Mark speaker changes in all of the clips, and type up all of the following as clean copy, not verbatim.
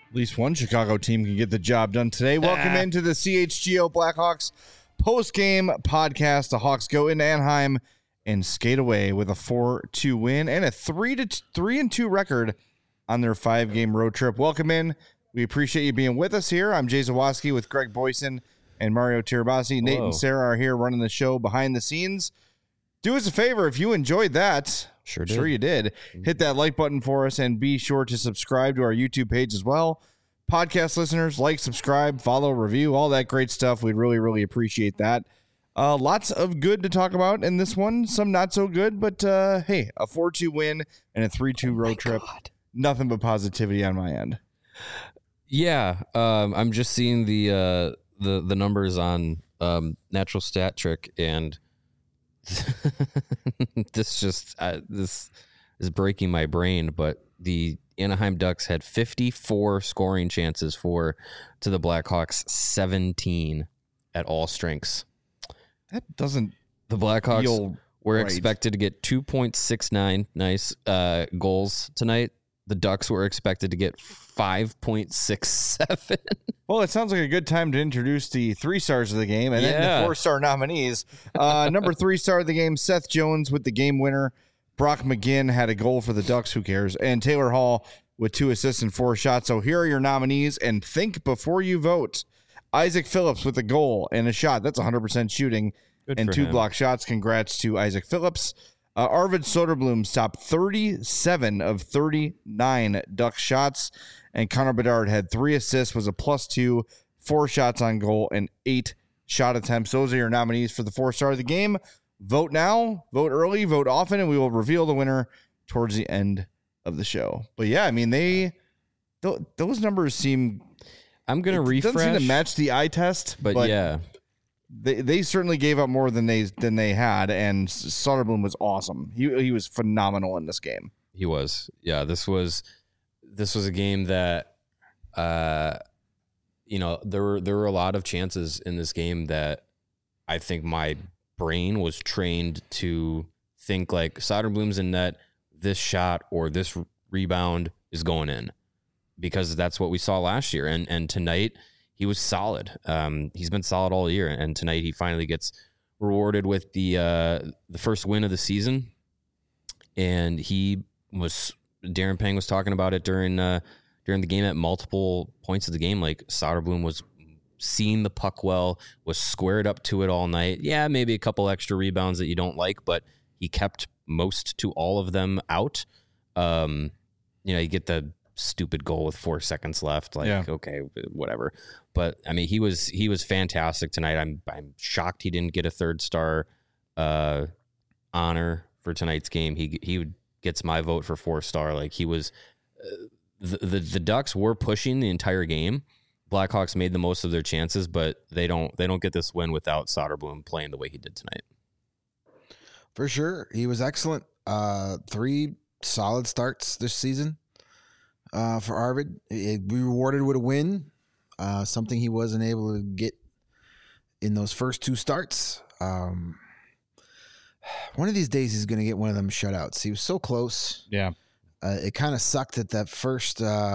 Speaker 1: At least one Chicago team can get the job done today. Welcome into the CHGO Blackhawks post-game podcast. The Hawks go into Anaheim and skate away with a 4-2 win and a 3-2 record on their 5-game road trip. Welcome in. We appreciate you being with us here. I'm Jay Zawoski with Greg Boyson and Mario Tirabassi. Nate and Sarah are here running the show behind the scenes. Do us a favor if you enjoyed that. Sure you did. Hit that like button for us and be sure to subscribe to our YouTube page as well. Podcast listeners, like, subscribe, follow, review, all that great stuff. We'd really appreciate that. Lots of good to talk about in this one. Some not so good, but hey, a 4-2 win and a 3-2 road trip. Nothing but positivity on my end.
Speaker 2: Yeah, I'm just seeing the numbers on Natural Stat Trick, and this is breaking my brain. But the Anaheim Ducks had 54 scoring chances to the Blackhawks 17 at all strengths.
Speaker 1: That doesn't.
Speaker 2: The Blackhawks were
Speaker 1: right.
Speaker 2: expected to get 2.69 goals tonight. The Ducks were expected to get 5.67.
Speaker 1: Well, it sounds like a good time to introduce the 3 stars of the game and then the 4-star nominees. Number 3 star of the game, Seth Jones with the game winner. Brock McGinn had a goal for the Ducks. Who cares? And Taylor Hall with 2 assists and 4 shots. So here are your nominees, and think before you vote. Isaac Phillips with a goal and a shot. That's 100% shooting.
Speaker 2: Good
Speaker 1: and 2 block shots. Congrats to Isaac Phillips. Arvid Soderblom stopped 37 of 39 Duck shots, and Connor Bedard had 3 assists, was a +2, 4 shots on goal, and 8 shot attempts. Those are your nominees for the 4-star of the game. Vote now, vote early, vote often, and we will reveal the winner towards the end of the show. But yeah, I mean, those numbers seem.
Speaker 2: I'm gonna refresh.
Speaker 1: Doesn't seem to match the eye test,
Speaker 2: but yeah.
Speaker 1: They certainly gave up more than they had, and Soderblom was awesome. He was phenomenal in this game.
Speaker 2: He was. Yeah, this was a game that there were a lot of chances in this game that I think my brain was trained to think like Soderblom's in net, this shot or this rebound is going in, because that's what we saw last year, and tonight he was solid. He's been solid all year, and tonight he finally gets rewarded with the first win of the season. And Darren Pang was talking about it during the game at multiple points of the game. Like, Soderblom was seeing the puck well, was squared up to it all night. Yeah, maybe a couple extra rebounds that you don't like, but he kept most to all of them out. You get the stupid goal with 4 seconds left. Okay, whatever. But I mean, he was fantastic tonight. I'm shocked he didn't get a 3-star honor for tonight's game. He gets my vote for 4-star. Like, he was the Ducks were pushing the entire game. Blackhawks made the most of their chances, but they don't get this win without Soderblom playing the way he did tonight.
Speaker 3: For sure, he was excellent. 3 solid starts this season. For Arvid, we rewarded with a win, something he wasn't able to get in those first 2 starts. One of these days he's going to get one of them shutouts. He was so close.
Speaker 1: Yeah.
Speaker 3: It kind of sucked that first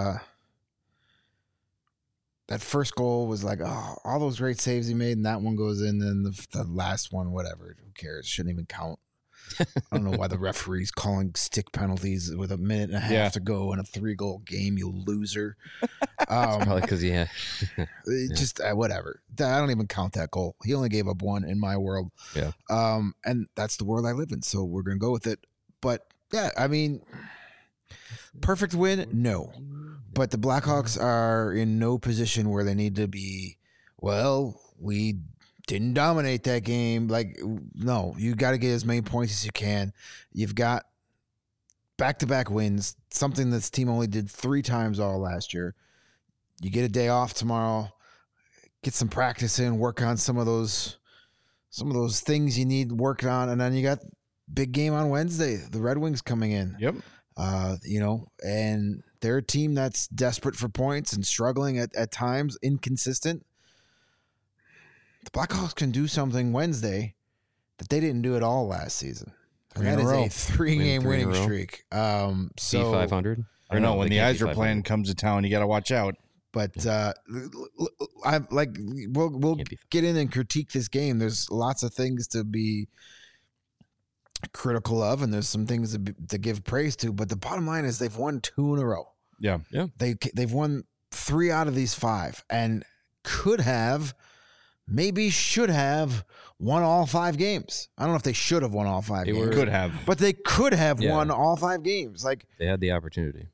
Speaker 3: goal was like, all those great saves he made, and that one goes in, and the last one, whatever. Who cares? Shouldn't even count. I don't know why the referee's calling stick penalties with a minute and a half to go in a 3-goal game, you loser.
Speaker 2: Probably because
Speaker 3: just whatever. I don't even count that goal. He only gave up 1 in my world.
Speaker 2: Yeah.
Speaker 3: And that's the world I live in, so we're going to go with it. But yeah, I mean, perfect win? No. But the Blackhawks are in no position where they need to be, we didn't dominate that game. Like, no, you got to get as many points as you can. You've got back-to-back wins, something this team only did 3 times all last year. You get a day off tomorrow, get some practice in, work on some of those things you need working on, and then you got big game on Wednesday. The Red Wings coming in.
Speaker 1: Yep.
Speaker 3: And they're a team that's desperate for points and struggling at times, inconsistent. The Blackhawks can do something Wednesday that they didn't do at all last season. And that is a 3-game winning streak.
Speaker 2: C500?
Speaker 1: I don't know. When the Yzer plan comes to town, you got to watch out.
Speaker 3: But I'm like, we'll get in and critique this game. There's lots of things to be critical of, and there's some things to give praise to. But the bottom line is they've won 2 in a row.
Speaker 1: Yeah.
Speaker 3: They've won 3 out of these 5, and could have, maybe should have won all 5 games. I don't know if they should have won all 5 games.
Speaker 1: Could have.
Speaker 3: But they could have won all 5 games. Like,
Speaker 2: they had the opportunity.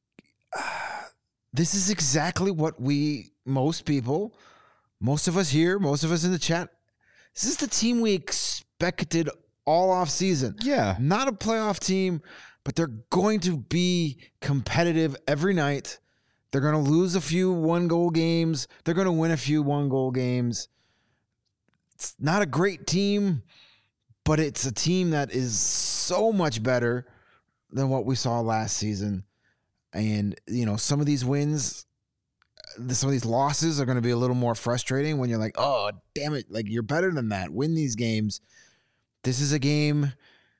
Speaker 3: This is exactly what most people, most of us here, most of us in the chat, this is the team we expected all off season.
Speaker 1: Yeah.
Speaker 3: Not a playoff team, but they're going to be competitive every night. They're going to lose a few 1-goal games. They're going to win a few 1-goal games. It's not a great team, but it's a team that is so much better than what we saw last season. And, some of these wins, some of these losses are going to be a little more frustrating when you're like, oh, damn it. Like, you're better than that. Win these games. This is a game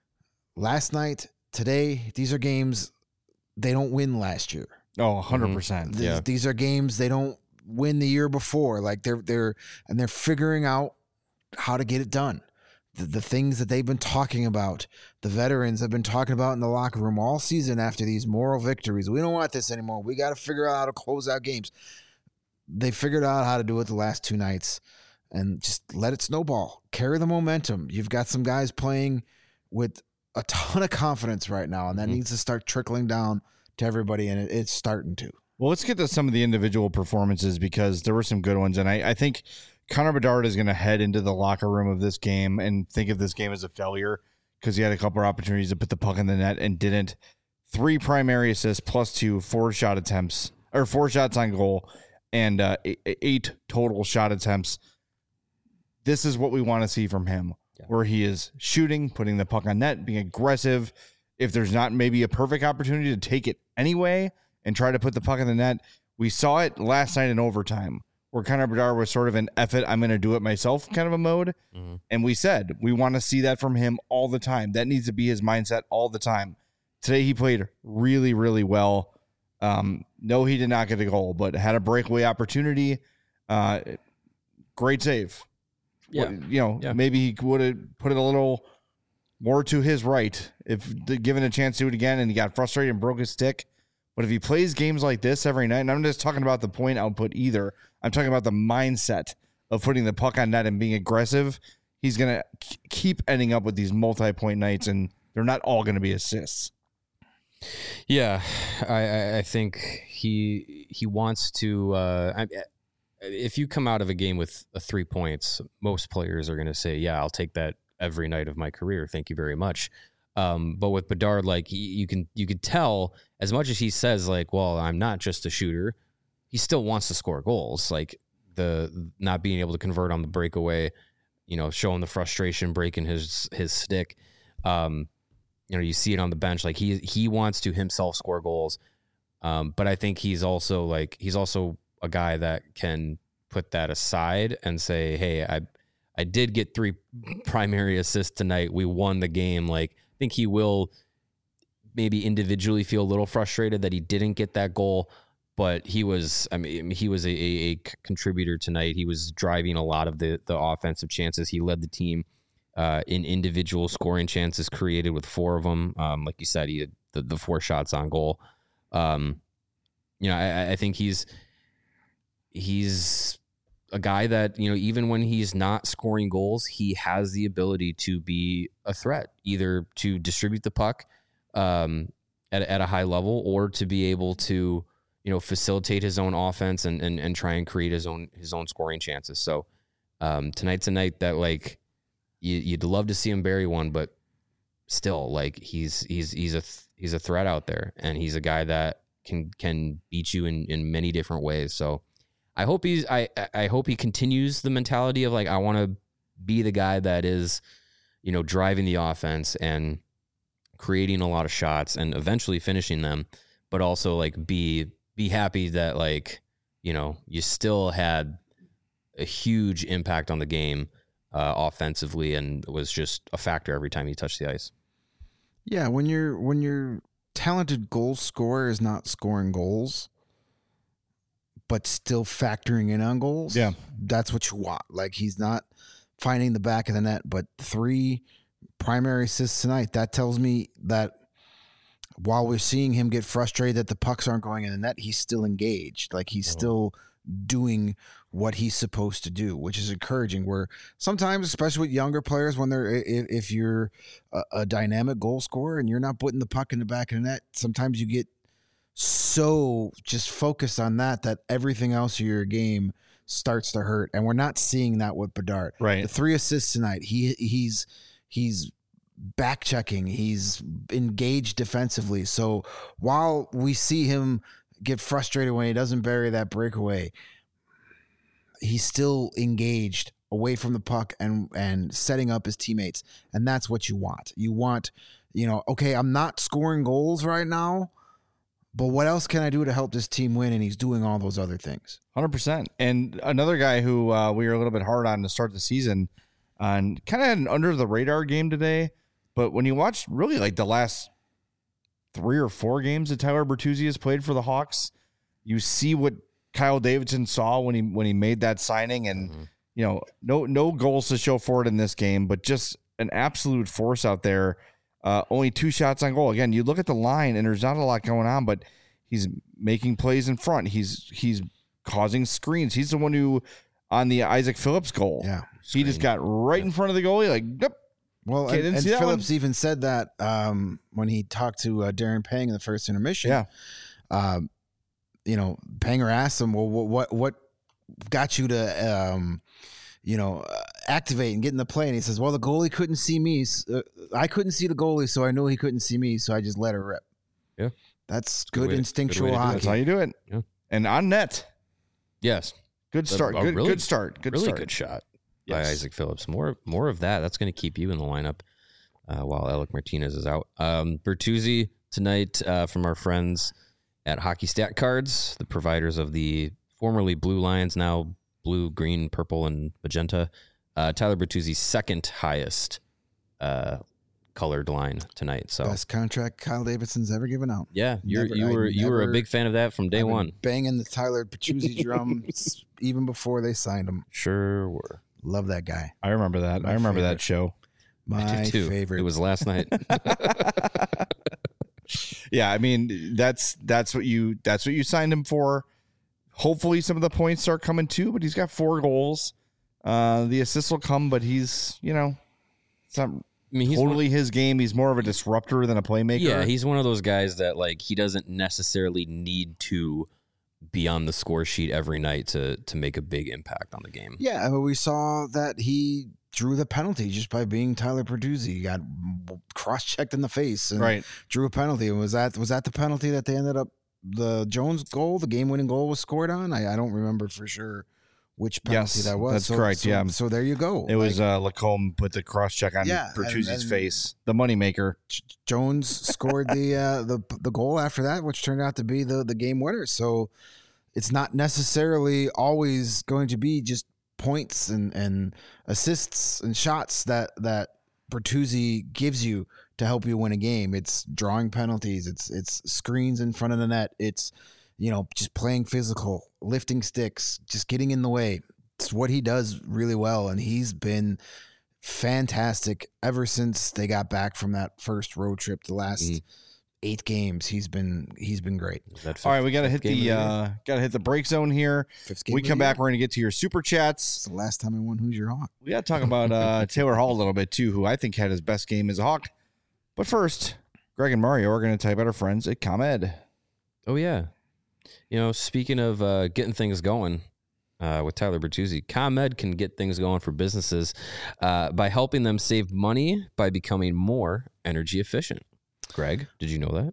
Speaker 3: last night, today. These are games they don't win last year.
Speaker 1: Oh, 100%.
Speaker 3: These are games they don't win the year before. Like they're figuring out how to get it done. The things that they've been talking about, the veterans have been talking about in the locker room all season after these moral victories. We don't want this anymore. We got to figure out how to close out games. They figured out how to do it the last 2 nights, and just let it snowball. Carry the momentum. You've got some guys playing with a ton of confidence right now, and that needs to start trickling down to everybody, and it's starting to.
Speaker 1: Well, let's get to some of the individual performances, because there were some good ones, and I think Connor Bedard is going to head into the locker room of this game and think of this game as a failure, because he had a couple of opportunities to put the puck in the net and didn't. 3 primary assists plus 2 4 shot attempts, or 4 shots on goal, and 8 total shot attempts. This is what we want to see from him, where he is shooting, putting the puck on net, being aggressive. If there's not maybe a perfect opportunity to take it anyway and try to put the puck in the net. We saw it last night in overtime, where Connor Bedard was sort of an F it, I'm going to do it myself kind of a mode. And we said, we want to see that from him all the time. That needs to be his mindset all the time. Today he played really, really well. No, he did not get a goal, but had a breakaway opportunity. Great save.
Speaker 2: Yeah.
Speaker 1: Maybe he would have put it a little more to his right if given a chance to do it again, and he got frustrated and broke his stick. But if he plays games like this every night, and I'm just talking about the point output either, I'm talking about the mindset of putting the puck on net and being aggressive, he's going to keep ending up with these multi-point nights, and they're not all going to be assists.
Speaker 2: Yeah, I think he wants to. If you come out of a game with 3 points, most players are going to say, "Yeah, I'll take that every night of my career. Thank you very much." But with Bedard, like you could tell, as much as he says, like, "Well, I'm not just a shooter," he still wants to score goals. Like the not being able to convert on the breakaway, showing the frustration, breaking his stick. You see it on the bench. Like he wants to himself score goals. But I think he's also a guy that can put that aside and say, hey, I did get 3 primary assists tonight. We won the game. Like, I think he will maybe individually feel a little frustrated that he didn't get that goal, but he was a contributor tonight. He was driving a lot of the offensive chances. He led the team in individual scoring chances created with 4 of them. Like you said, he had the 4 shots on goal. I think he's a guy that, even when he's not scoring goals, he has the ability to be a threat, either to distribute the puck at a high level, or to be able to, facilitate his own offense and try and create his own scoring chances. So tonight's a night that, like, you'd love to see him bury one, but still, like, he's a threat out there, and he's a guy that can beat you in many different ways. So I hope I hope he continues the mentality of, like, I want to be the guy that is, driving the offense and creating a lot of shots and eventually finishing them, but also, like, be happy that, like, you still had a huge impact on the game offensively, and it was just a factor every time he touched the ice.
Speaker 3: Yeah, when your talented goal scorer is not scoring goals, but still factoring in on goals.
Speaker 1: Yeah.
Speaker 3: That's what you want. Like, he's not finding the back of the net, but 3 primary assists tonight. That tells me that while we're seeing him get frustrated that the pucks aren't going in the net, he's still engaged. Like, he's still doing what he's supposed to do, which is encouraging. Where sometimes, especially with younger players, when they're if you're a dynamic goal scorer and you're not putting the puck in the back of the net, sometimes you get so just focused on that everything else of your game starts to hurt. And we're not seeing that with Bedard.
Speaker 1: Right.
Speaker 3: The 3 assists tonight, he's back checking, he's engaged defensively. So while we see him get frustrated when he doesn't bury that breakaway, he's still engaged away from the puck and setting up his teammates. And that's what you want. You want, okay, I'm not scoring goals right now, but what else can I do to help this team win? And he's doing all those other things.
Speaker 1: 100%. And another guy who we were a little bit hard on to start the season, and kind of had an under the radar game today, but when you watch really like the last 3 or 4 games that Tyler Bertuzzi has played for the Hawks, you see what Kyle Davidson saw when he made that signing, and no goals to show for it in this game, but just an absolute force out there. Only 2 shots on goal. Again, you look at the line and there's not a lot going on, but he's making plays in front. He's causing screens. He's the one who, on the Isaac Phillips goal, he just got right in front of the goalie, like, yep.
Speaker 3: Well, and Phillips even said that when he talked to Darren Pang in the first intermission. Yeah. Panger asked him, well, what got you to, activate and get in the play? And he says, well, the goalie couldn't see me. I couldn't see the goalie, so I knew he couldn't see me, so I just let her rip.
Speaker 2: Yeah.
Speaker 3: That's good instinctual hockey.
Speaker 1: That's how you do it.
Speaker 2: Yeah.
Speaker 1: And on net.
Speaker 2: Yes.
Speaker 1: Good start. Good start.
Speaker 2: Good shot by Isaac Phillips. More of that. That's going to keep you in the lineup while Alec Martinez is out. Bertuzzi tonight from our friends at Hockey Stat Cards, the providers of the formerly Blue Lions, now blue, green, purple, and magenta. Tyler Bertuzzi's second highest colored line tonight. So
Speaker 3: best contract Kyle Davidson's ever given out.
Speaker 2: Yeah, you were a big fan of that from day one.
Speaker 3: Banging the Tyler Bertuzzi drum even before they signed him.
Speaker 2: Sure were.
Speaker 3: Love that guy.
Speaker 1: I remember that. I remember that show.
Speaker 3: My favorite.
Speaker 2: It was last night.
Speaker 1: Yeah, I mean that's what you signed him for. Hopefully some of the points start coming too, but he's got 4 goals. The assists will come, but he's it's not he's totally his game. He's more of a disruptor than a playmaker.
Speaker 2: Yeah, he's one of those guys that like he doesn't necessarily need to be on the score sheet every night to make a big impact on the game.
Speaker 3: Yeah, I mean, we saw that he drew the penalty just by being Tyler Bertuzzi. He got cross-checked in the face and drew a penalty. And was that the penalty that they ended up, the Jones goal, the game-winning goal was scored on? I don't remember for sure which penalty that was.
Speaker 1: That's correct.
Speaker 3: So there you go.
Speaker 1: It was Lacombe put the cross-check on Bertuzzi's face, the moneymaker.
Speaker 3: Jones scored the goal after that, which turned out to be the game winner. So it's not necessarily always going to be just points and assists and shots that Bertuzzi gives you to help you win a game. It's drawing penalties. It's screens in front of the net. It's, just playing physical, lifting sticks, just getting in the way. It's what he does really well. And he's been fantastic ever since they got back from that first road trip. The last 8 games, he's been great.
Speaker 1: All right, we got to hit the break zone here. When we come back, we're going to get to your super chats.
Speaker 3: It's the last time I won Who's Your Hawk.
Speaker 1: We got to talk about Taylor Hall a little bit too, who I think had his best game as a Hawk. But first, Greg and Mario are going to tell you about our friends at ComEd.
Speaker 2: Oh yeah, speaking of getting things going with Tyler Bertuzzi, ComEd can get things going for businesses by helping them save money by becoming more energy efficient. Greg, did you know that?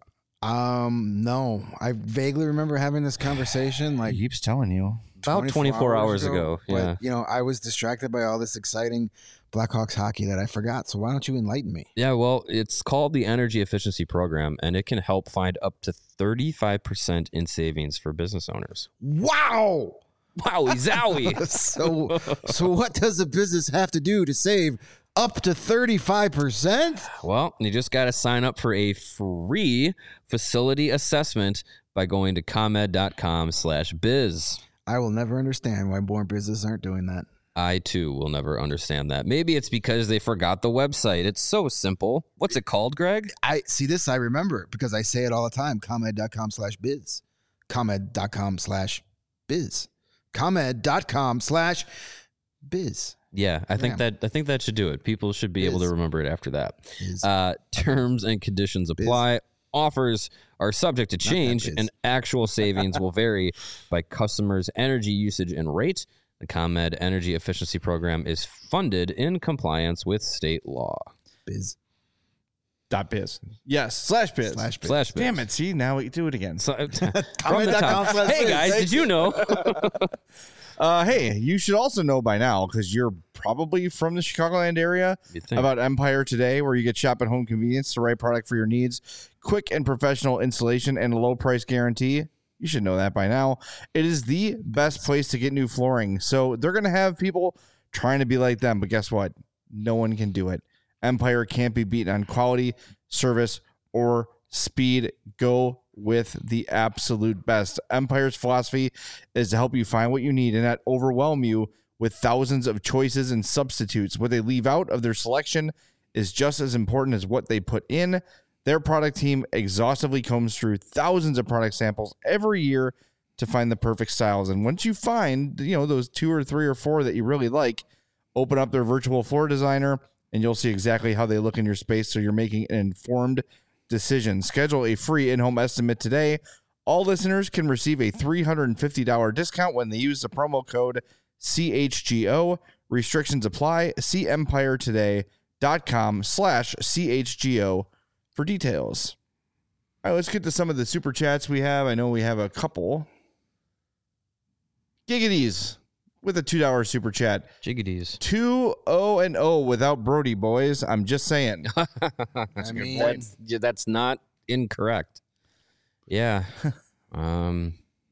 Speaker 3: No. I vaguely remember having this conversation. Like,
Speaker 1: he keeps telling you.
Speaker 2: About 24 hours ago. Yeah.
Speaker 3: But, I was distracted by all this exciting Blackhawks hockey that I forgot. So why don't you enlighten me?
Speaker 2: Yeah, well, it's called the Energy Efficiency Program, and it can help find up to 35% in savings for business owners.
Speaker 3: Wow!
Speaker 2: Wowie zowie.
Speaker 3: So what does a business have to do to save up to 35%?
Speaker 2: Well, you just got to sign up for a free facility assessment by going to comed.com/biz.
Speaker 3: I will never understand why more businesses aren't doing that.
Speaker 2: I too will never understand that. Maybe it's because they forgot the website. It's so simple. What's it called, Greg?
Speaker 3: I see this. I remember because I say it all the time. ComEd.com/biz. ComEd.com/biz. ComEd.com/biz.
Speaker 2: Yeah, I think that should do it. People should be able to remember it after that. Terms and conditions apply. Offers are subject to change, and actual savings will vary by customers' energy usage and rate. The ComEd Energy Efficiency Program is funded in compliance with state law.
Speaker 3: Biz.
Speaker 1: .biz. Yes, /biz.
Speaker 2: /biz.
Speaker 1: Damn it. See, now we do it again.
Speaker 2: So, from the top. Hey, guys, did you know?
Speaker 1: Hey, you should also know by now, because you're probably from the Chicagoland area, about Empire Today, where you get shop at home convenience, the right product for your needs, quick and professional installation, and a low price guarantee. You should know that by now. It is the best place to get new flooring. So they're going to have people trying to be like them. But guess what? No one can do it. Empire can't be beaten on quality, service, or speed. Go with the absolute best. Empire's philosophy is to help you find what you need and not overwhelm you with thousands of choices and substitutes. What they leave out of their selection is just as important as what they put in. Their product team exhaustively combs through thousands of product samples every year to find the perfect styles. And once you find, those 2 or 3 or 4 that you really like, open up their virtual floor designer and you'll see exactly how they look in your space, so you're making an informed decision. Schedule a free in-home estimate today. All listeners can receive a $350 discount when they use the promo code CHGO. Restrictions apply. See EmpireToday.com/CHGO for details. All right, let's get to some of the super chats we have. I know we have a couple. Giggities with a $2 super chat.
Speaker 2: Jiggities.
Speaker 1: 2-0-0 without Brody, boys. I'm just saying.
Speaker 2: That's not incorrect. Yeah. We'll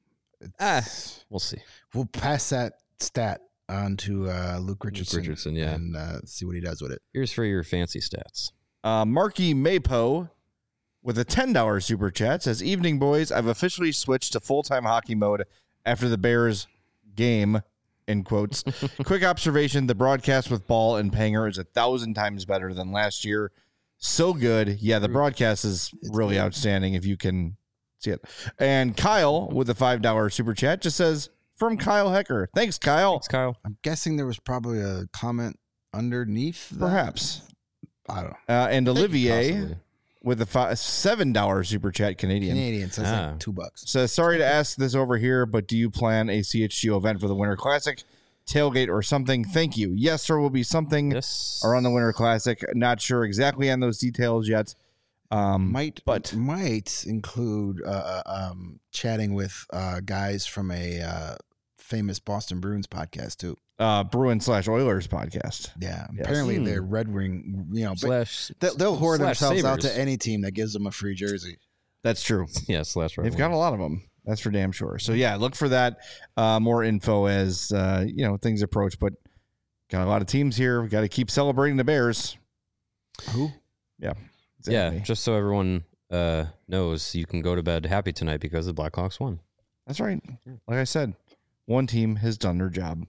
Speaker 2: see.
Speaker 3: We'll pass that stat on to Luke Richardson.
Speaker 2: Yeah.
Speaker 3: And see what he does with it.
Speaker 2: Here's for your fancy stats.
Speaker 1: Marky Maypo with a $10 super chat says, "Evening, boys. I've officially switched to full-time hockey mode after the Bears game," in quotes. "Quick observation. The broadcast with Ball and Panger is 1,000 times better than last year. So good. Yeah, the broadcast is really outstanding if you can see it." And Kyle with a $5 super chat just says, "From Kyle Hecker." Thanks, Kyle.
Speaker 2: Thanks, Kyle.
Speaker 3: I'm guessing there was probably a comment underneath that.
Speaker 1: Perhaps.
Speaker 3: I don't know.
Speaker 1: And Olivier
Speaker 2: Possibly.
Speaker 1: with a $7 super chat Canadian.
Speaker 3: So it's like $2.
Speaker 1: Says, "Sorry to ask this over here, but do you plan a CHGO event for the Winter Classic, tailgate or something? Thank you. Yes, there will be something around the Winter Classic. Not sure exactly on those details yet.
Speaker 3: Might include chatting with guys from a famous Boston Bruins podcast too.
Speaker 1: Bruin/Oilers podcast.
Speaker 3: Yeah,
Speaker 1: Yes.
Speaker 3: apparently they're Red Wing.
Speaker 2: Slash,
Speaker 3: they'll whore themselves out
Speaker 2: Sabres.
Speaker 3: to any team that gives them a free jersey.
Speaker 1: That's true.
Speaker 2: Yeah, slash.
Speaker 1: They've got a lot of them. That's for damn sure. So yeah, look for that. More info as things approach. But got a lot of teams here. We got to keep celebrating the Bears.
Speaker 3: Who?
Speaker 1: Yeah.
Speaker 2: Yeah,
Speaker 1: Exactly.
Speaker 2: just so everyone knows, you can go to bed happy tonight because the Blackhawks won.
Speaker 1: That's right. Like I said, one team has done their job.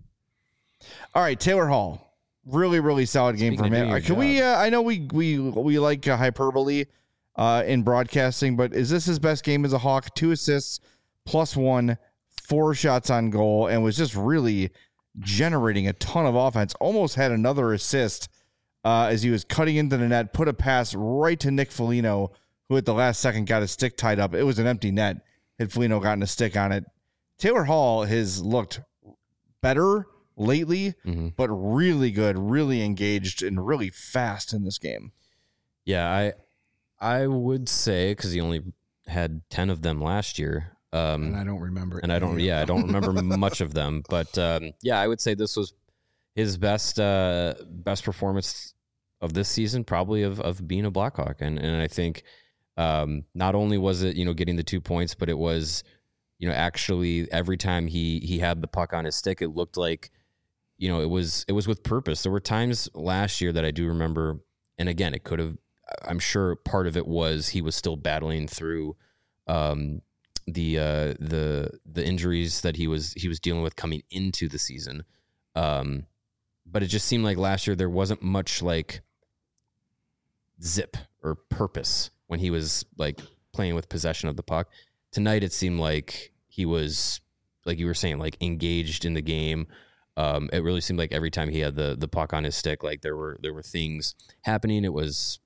Speaker 1: All right, Taylor Hall. Really, really solid game
Speaker 2: Speaking
Speaker 1: from
Speaker 2: of
Speaker 1: him.
Speaker 2: doing
Speaker 1: Can
Speaker 2: your
Speaker 1: we? I know we like hyperbole in broadcasting, but is this his best game as a Hawk? 2 assists, +1, 4 shots on goal, and was just really generating a ton of offense. Almost had another assist as he was cutting into the net, put a pass right to Nick Foligno, who at the last second got his stick tied up. It was an empty net. Had Foligno gotten a stick on it. Taylor Hall has looked better lately, but really good, really engaged, and really fast in this game.
Speaker 2: Yeah, I would say, because he only had 10 of them last year.
Speaker 3: And I don't remember.
Speaker 2: I don't remember much of them. But I would say this was his best performance of this season, probably of being a Blackhawk. And I think not only was it, getting the 2 points, but it was, actually every time he had the puck on his stick, it looked like, it was with purpose. There were times last year that I do remember, and again, it could have, I'm sure part of it was he was still battling through the injuries that he was dealing with coming into the season. But it just seemed like last year there wasn't much like zip or purpose when he was like playing with possession of the puck. Tonight it seemed like he was, like you were saying, like engaged in the game. It really seemed like every time he had the puck on his stick, like there were things happening. It was,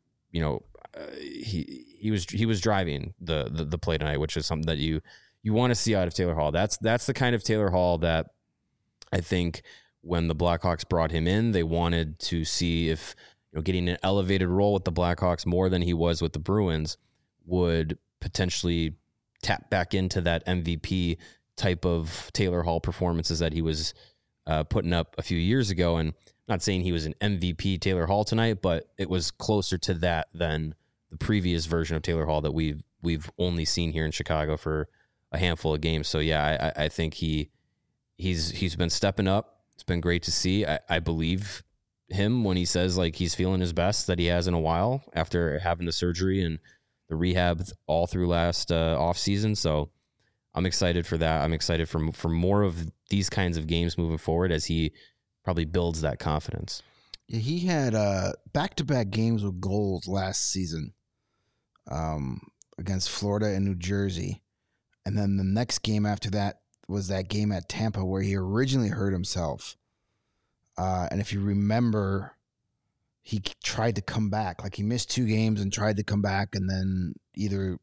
Speaker 2: he was driving the play tonight, which is something that you want to see out of Taylor Hall. That's the kind of Taylor Hall that I think when the Blackhawks brought him in, they wanted to see if getting an elevated role with the Blackhawks more than he was with the Bruins would potentially tap back into that MVP type of Taylor Hall performances that he was putting up a few years ago. And I'm not saying he was an MVP Taylor Hall tonight, but it was closer to that than the previous version of Taylor Hall that we've only seen here in Chicago for a handful of games. So yeah, I think he's been stepping up. It's been great to see. I believe him when he says like he's feeling his best that he has in a while after having the surgery and the rehab all through last off season. So I'm excited for that. I'm excited for more of these kinds of games moving forward as he probably builds that confidence.
Speaker 3: Yeah, he had back-to-back games with goals last season against Florida and New Jersey. And then the next game after that was that game at Tampa where he originally hurt himself. And if you remember, he tried to come back. Like he missed 2 games and tried to come back and then either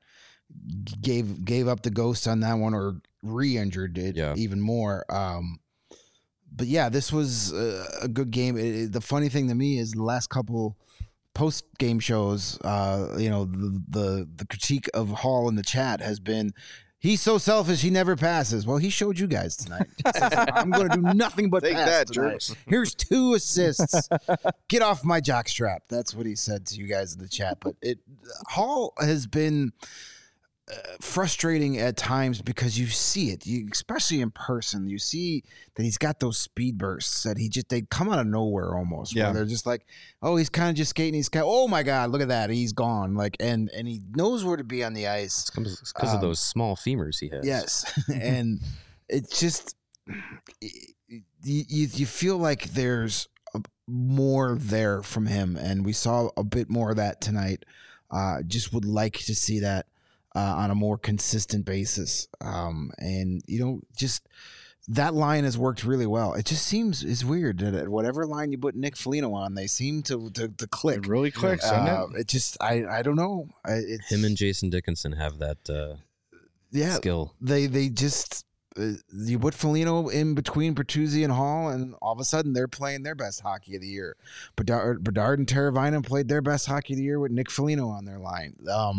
Speaker 3: gave up the ghost on that one or re-injured it even more. But yeah, this was a good game. The funny thing to me is the last couple post-game shows, the critique of Hall in the chat has been, he's so selfish, he never passes. Well, he showed you guys tonight. I'm going to do nothing but
Speaker 1: Take
Speaker 3: pass
Speaker 1: that,
Speaker 3: tonight.
Speaker 1: jerks.
Speaker 3: Here's 2 assists. Get off my jockstrap. That's what he said to you guys in the chat. But Hall has been frustrating at times because you see it, especially in person. You see that he's got those speed bursts that they come out of nowhere almost.
Speaker 1: Yeah,
Speaker 3: where they're just like, oh, he's kind of just skating. Oh my God, look at that, he's gone. Like, and he knows where to be on the ice.
Speaker 2: It's because of those small femurs he has.
Speaker 3: Yes, and it's just you feel like there's more there from him, and we saw a bit more of that tonight. Just would like to see that on a more consistent basis. And just that line has worked really well. It just it's weird that at whatever line you put Nick Foligno on, they seem to click.
Speaker 1: It really clicks, doesn't it?
Speaker 3: It just, I don't know.
Speaker 2: Him and Jason Dickinson have that skill.
Speaker 3: They just, you put Foligno in between Bertuzzi and Hall, and all of a sudden they're playing their best hockey of the year. Bedard and Teravainen played their best hockey of the year with Nick Foligno on their line.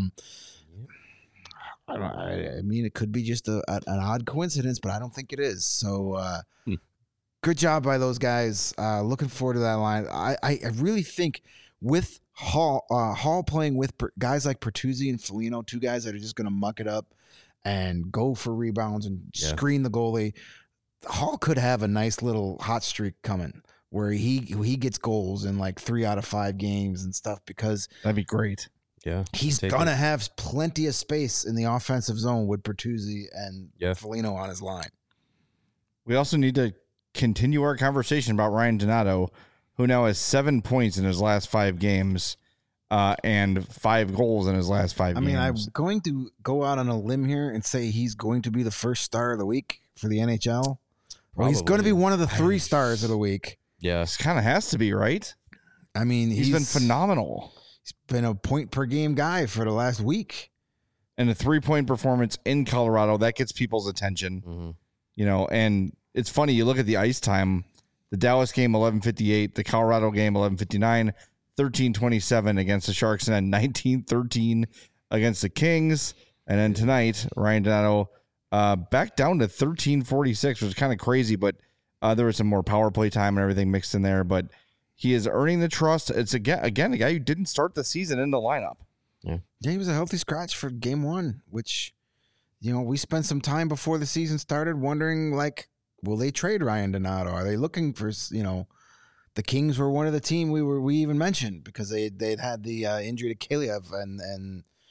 Speaker 3: I mean, it could be just an odd coincidence, but I don't think it is. So good job by those guys. Looking forward to that line. I really think with Hall playing with guys like Bertuzzi and Foligno, 2 guys that are just going to muck it up and go for rebounds and screen the goalie, Hall could have a nice little hot streak coming where he gets goals in like 3 out of 5 games and stuff, because
Speaker 1: that'd be great.
Speaker 2: Yeah,
Speaker 3: he's gonna have plenty of space in the offensive zone with Bertuzzi and Foligno on his line.
Speaker 1: We also need to continue our conversation about Ryan Donato, who now has 7 points in his last 5 games, and 5 goals in his last 5 games.
Speaker 3: I mean, I'm going to go out on a limb here and say he's going to be the first star of the week for the NHL. Well, he's going to be one of the 3 stars of the week.
Speaker 2: Yeah,
Speaker 1: it kind of has to be, right?
Speaker 3: I mean,
Speaker 1: he's been phenomenal.
Speaker 3: He's been a point per game guy for the last week.
Speaker 1: And a 3-point performance in Colorado, that gets people's attention. Mm-hmm. And it's funny, you look at the ice time, the Dallas game 11:58, the Colorado game 11:59, 13:27 against the Sharks, and then 19:13 against the Kings. And then tonight, Ryan Donato back down to 13:46, which is kind of crazy, but there was some more power play time and everything mixed in there. But he is earning the trust. It's again a guy who didn't start the season in the lineup.
Speaker 3: Yeah, he was a healthy scratch for game 1, which, we spent some time before the season started wondering, like, will they trade Ryan Donato? Are they looking for, the Kings were one of the team we even mentioned because they'd had the injury to Kaliev, and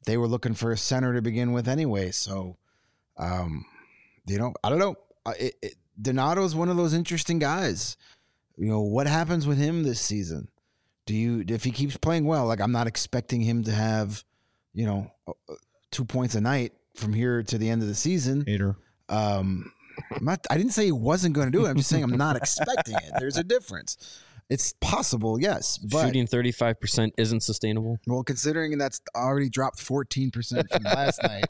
Speaker 3: they were looking for a center to begin with anyway. So, I don't know. Donato is one of those interesting guys. What happens with him this season? If he keeps playing well, like I'm not expecting him to have, 2 points a night from here to the end of the season.
Speaker 1: Hater.
Speaker 3: I didn't say he wasn't going to do it. I'm just saying I'm not expecting it. There's a difference. It's possible, yes. But,
Speaker 2: shooting 35% isn't sustainable.
Speaker 3: Well, considering that's already dropped 14% from last night.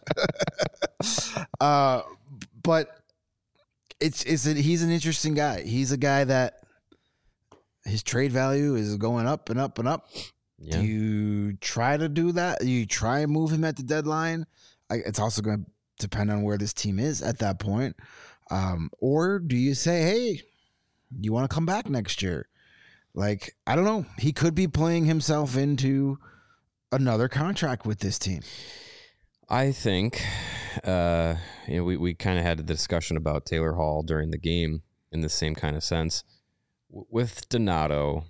Speaker 3: But he's an interesting guy. He's a guy that his trade value is going up and up and up.
Speaker 2: Yeah.
Speaker 3: Do you try to do that? You try and move him at the deadline? It's also going to depend on where this team is at that point. Or do you say, hey, you want to come back next year? Like, I don't know. He could be playing himself into another contract with this team.
Speaker 2: I think, we kind of had a discussion about Taylor Hall during the game in the same kind of sense. With Donato,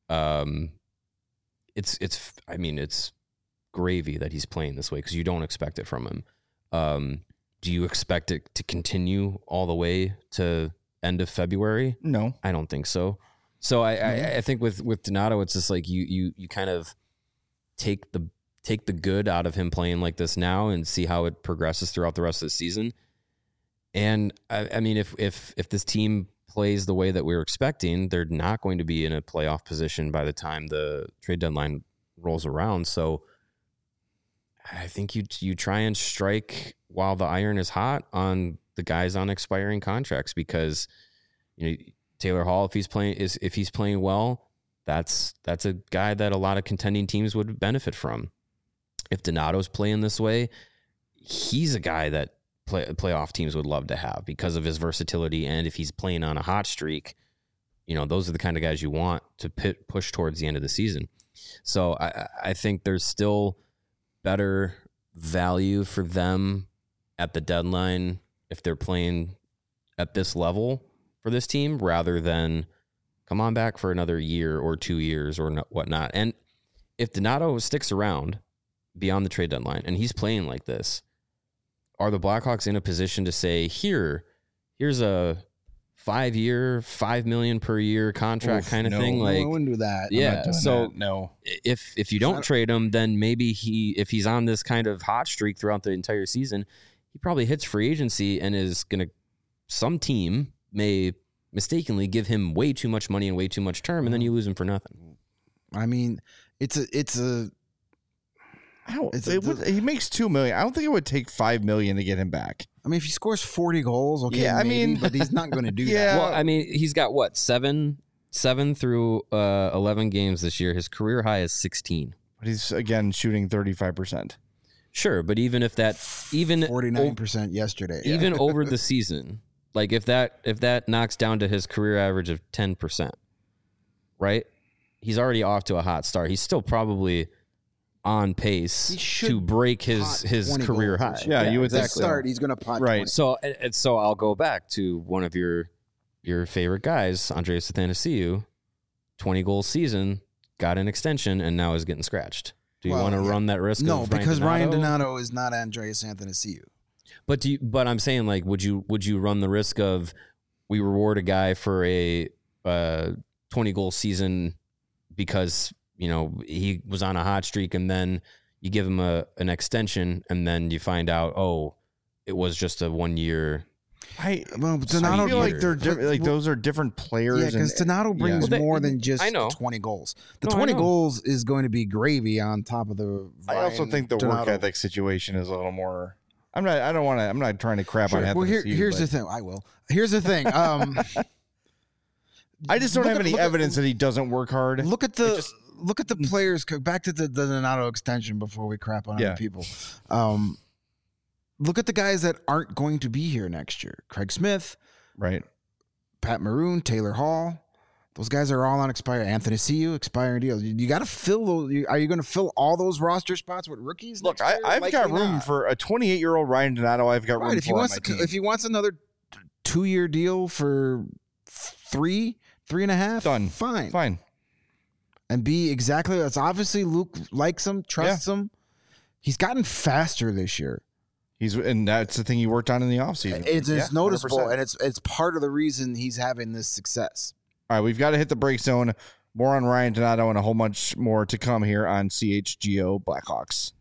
Speaker 2: it's gravy that he's playing this way because you don't expect it from him. Do you expect it to continue all the way to end of February?
Speaker 1: No,
Speaker 2: I don't think so. So I think with Donato, it's just like you kind of take the good out of him playing like this now and see how it progresses throughout the rest of the season. And I mean, if this team plays the way that we were expecting, they're not going to be in a playoff position by the time the trade deadline rolls around. So I think you try and strike while the iron is hot on the guys on expiring contracts, because Taylor Hall, if he's playing well, that's a guy that a lot of contending teams would benefit from. If Donato's playing this way, he's a guy that playoff teams would love to have because of his versatility, and if he's playing on a hot streak, those are the kind of guys you want to push towards the end of the season. So I think there's still better value for them at the deadline if they're playing at this level for this team, rather than come on back for another year or 2 years or whatnot. And if Donato sticks around beyond the trade deadline and he's playing like this, are the Blackhawks in a position to say, here's a 5-year, $5 million per year contract kind of thing? Like,
Speaker 3: I wouldn't do that.
Speaker 2: Yeah. So
Speaker 1: that. No,
Speaker 2: if you don't trade him, then maybe if he's on this kind of hot streak throughout the entire season, he probably hits free agency and is going to, some team may mistakenly give him way too much money and way too much term, and then you lose him for nothing.
Speaker 3: I mean, he
Speaker 1: makes $2 million. I don't think it would take $5 million to get him back.
Speaker 3: I mean, if he scores 40 goals, okay,
Speaker 1: yeah,
Speaker 3: maybe, but he's not going to do
Speaker 1: Yeah.
Speaker 3: that.
Speaker 2: Well, I mean, he's got what, seven through 11 games this year. His career high is 16.
Speaker 1: But he's again shooting 35%.
Speaker 2: Sure, but even
Speaker 3: 49% yesterday.
Speaker 2: Even over the season, like if that knocks down to his career average of 10%, right? He's already off to a hot start. He's still probably on pace to break his career high.
Speaker 1: Yeah, you would
Speaker 3: exactly. Start. He's going to pot
Speaker 1: right.
Speaker 3: 20.
Speaker 2: So I'll go back to one of your favorite guys, Andreas Athanasiou, 20 goal season, got an extension, and now is getting scratched. Do you want to run that risk?
Speaker 3: No, because Ryan
Speaker 2: Donato?
Speaker 3: Donato is not Andreas Athanasiou.
Speaker 2: But I'm saying, like, would you run the risk of we reward a guy for a 20 goal season because he was on a hot streak, and then you give him an extension, and then you find out, oh, it was just a 1 year.
Speaker 3: Donato,
Speaker 1: I feel like they're those are different players.
Speaker 3: Yeah, because Donato brings more than just 20 goals. The 20 goals is going to be gravy on top of the.
Speaker 1: I also think the work ethic situation is a little more. I'm not trying to crap on.
Speaker 3: Well, here's the thing. I will. Here's the thing.
Speaker 1: I just don't have any evidence that he doesn't work hard.
Speaker 3: Look at the players. Back to the Donato extension before we crap on other people. Look at the guys that aren't going to be here next year. Craig Smith,
Speaker 1: right?
Speaker 3: Pat Maroon, Taylor Hall. Those guys are all on expired. Athanasiou, expiring deals. You got to fill those. Are you going to fill all those roster spots with rookies?
Speaker 1: Look, I've got room for a 28-year-old Ryan Donato. I've got room for my team.
Speaker 3: If he wants another 2-year deal for 3.5,
Speaker 1: done.
Speaker 3: Fine. And be exactly. That's obviously Luke likes him, trusts him. He's gotten faster this year.
Speaker 1: And that's the thing he worked on in the offseason.
Speaker 3: It's noticeable,
Speaker 1: 100%.
Speaker 3: and it's part of the reason he's having this success.
Speaker 1: All right, we've got to hit the break zone. More on Ryan Donato and a whole bunch more to come here on CHGO Blackhawks.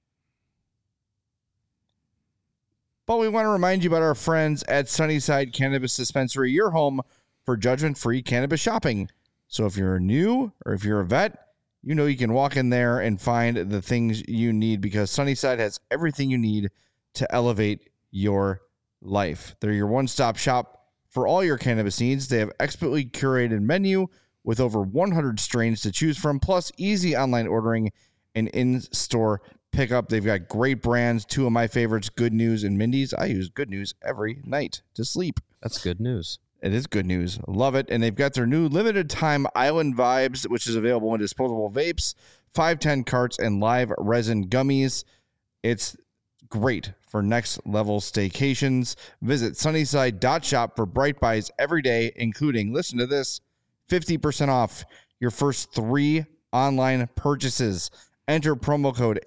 Speaker 1: But we want to remind you about our friends at Sunnyside Cannabis Dispensary, your home for judgment-free cannabis shopping. So if you're new or if you're a vet, you know you can walk in there and find the things you need because Sunnyside has everything you need to elevate your life. They're your one-stop shop for all your cannabis needs. They have expertly curated menu with over 100 strains to choose from, plus easy online ordering and in-store pickup. They've got great brands. Two of my favorites, Good News and Mindy's. I use Good News every night to sleep.
Speaker 2: That's good news.
Speaker 1: It is good news. Love it. And they've got their new limited time Island Vibes, which is available in disposable vapes, 510 carts, and live resin gummies. It's great for next level staycations. Visit sunnyside.shop for bright buys every day, including, listen to this, 50% off your first 3 online purchases. Enter promo code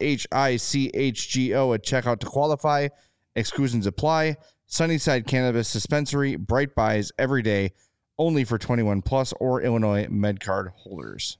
Speaker 1: HICHGO at checkout to qualify. Exclusions apply. Sunnyside Cannabis Dispensary, bright buys every day, only for 21 plus or Illinois MedCard holders.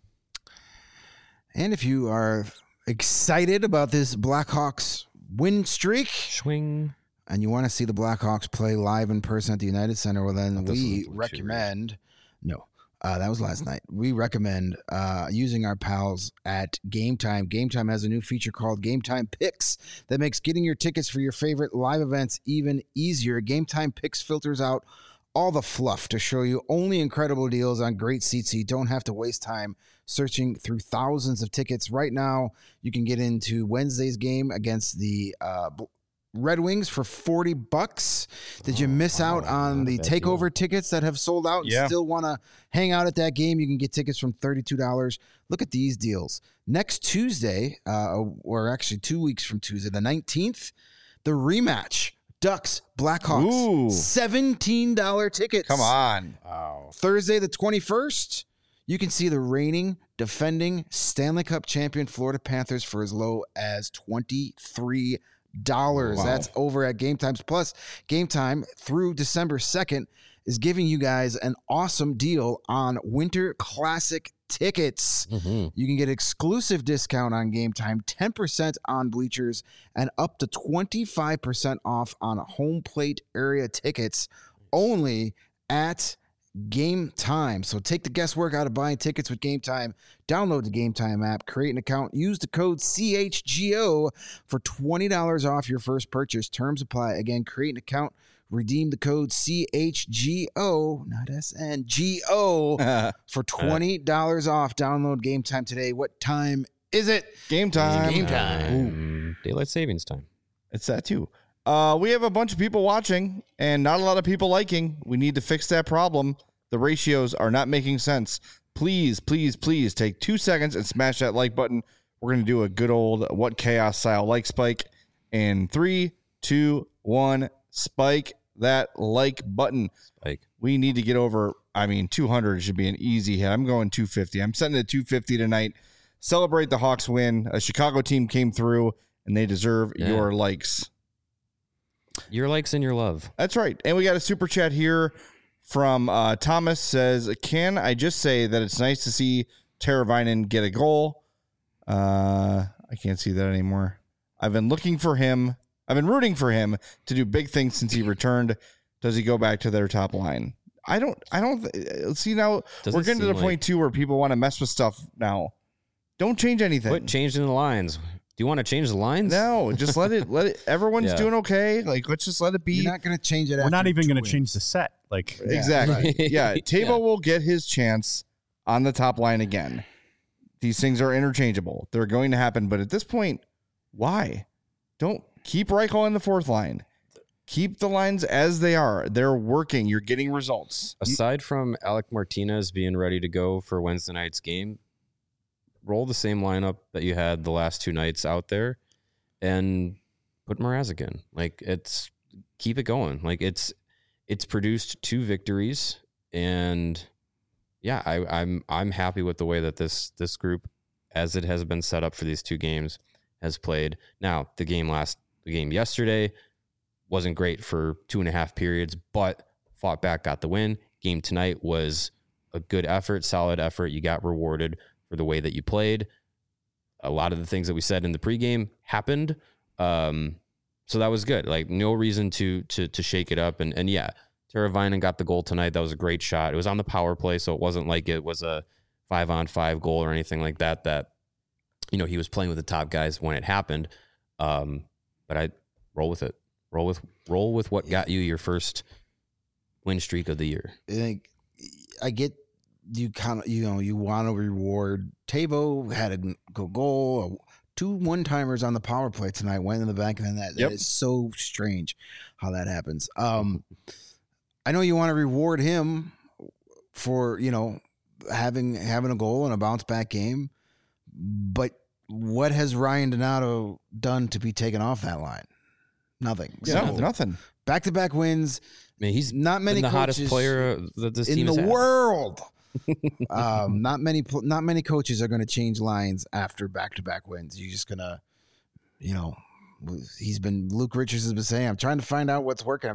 Speaker 3: And if you are excited about this Blackhawks win streak,
Speaker 2: Swing.
Speaker 3: and you want to see the Blackhawks play live in person at the United Center, well, then
Speaker 2: This
Speaker 3: we
Speaker 2: is what you
Speaker 3: recommend. No, that was last night. We recommend using our pals at Game Time. Game Time has a new feature called Game Time Picks that makes getting your tickets for your favorite live events even easier. Game Time Picks filters out all the fluff to show you only incredible deals on great seats so you don't have to waste time searching through thousands of tickets. Right now, you can get into Wednesday's game against the Red Wings for $40. Did you miss out on the takeover tickets that have sold out and still want to hang out at that game? You can get tickets from $32. Look at these deals. Next Tuesday, or actually 2 weeks from Tuesday, the 19th, the rematch. Ducks, Blackhawks,
Speaker 1: Ooh.
Speaker 3: $17 tickets.
Speaker 1: Come on.
Speaker 2: Wow.
Speaker 3: Thursday, the 21st, you can see the reigning, defending Stanley Cup champion Florida Panthers for as low as $23.
Speaker 1: Wow.
Speaker 3: That's over at Game Times. Plus, Game Time through December 2nd is giving you guys an awesome deal on Winter Classic tickets.
Speaker 2: Mm-hmm.
Speaker 3: You can get exclusive discount on Game Time, 10% on bleachers, and up to 25% off on home plate area tickets only at Game Time. So take the guesswork out of buying tickets with Game Time. Download the Game Time app, create an account, use the code CHGO for $20 off your first purchase. Terms apply. Again, create an account, redeem the code CHGO, not SNGO, for $20 off. Download Game Time today. What time is it?
Speaker 1: Game time.
Speaker 3: Game time.
Speaker 2: Daylight savings time.
Speaker 1: It's that too. We have a bunch of people watching and not a lot of people liking. We need to fix that problem. The ratios are not making sense. Please, please, please take 2 seconds and smash that like button. We're going to do a good old What Chaos style like spike. In 3, 2, 1, spike that like button.
Speaker 2: Spike.
Speaker 1: We need to get over, 200 should be an easy hit. I'm going 250. I'm setting it 250 tonight. Celebrate the Hawks win. A Chicago team came through, and they deserve your likes.
Speaker 2: Your likes and your love.
Speaker 1: That's right. And we got a super chat here from Thomas says, can I just say that it's nice to see Teravainen get a goal? I can't see that anymore. I've been rooting for him to do big things since he returned. Does he go back to their top line? I don't see now. We're getting to the point too where people want to mess with stuff now. Don't change anything.
Speaker 2: Quit changing the lines. Do you want to change the lines?
Speaker 1: No, just let it. Everyone's doing okay. Like, let's just let it be.
Speaker 3: You're not going to change it.
Speaker 4: We're not even going to change the set. Like,
Speaker 1: exactly. Yeah, Tabo will get his chance on the top line again. These things are interchangeable. They're going to happen. But at this point, why? Don't keep Reichel on the fourth line. Keep the lines as they are. They're working. You're getting results.
Speaker 2: Aside from Alec Martinez being ready to go for Wednesday night's game, roll the same lineup that you had the last 2 nights out there and put Mrazek in. Like, keep it going. Like, it's produced 2 victories, and I'm happy with the way that this group, as it has been set up for these 2 games, has played. Now, the game yesterday wasn't great for 2.5 periods, but fought back, got the win. Game tonight was a good effort, solid effort. You got rewarded for the way that you played. A lot of the things that we said in the pregame happened. So that was good. Like, no reason to shake it up. And yeah, Teravainen got the goal tonight. That was a great shot. It was on the power play, so it wasn't like it was a 5-on-5 goal or anything like that, he was playing with the top guys when it happened. But I roll with it. Roll with what got you your first win streak of the year.
Speaker 3: I get you you want to reward. Teuvo had a good goal, 2 one-timers on the power play tonight, went in the back, and then that is so strange how that happens. I know you want to reward him for, having a goal and a bounce back game, but what has Ryan Donato done to be taken off that line? Nothing.
Speaker 1: Yeah, nothing.
Speaker 3: Back-to-back wins.
Speaker 2: I mean, he's
Speaker 3: not many
Speaker 2: the
Speaker 3: coaches
Speaker 2: hottest player that this team
Speaker 3: in
Speaker 2: has
Speaker 3: the
Speaker 2: had.
Speaker 3: world. Not many coaches are going to change lines after back-to-back wins. You're just gonna, Luke Richards has been saying, I'm trying to find out what's working.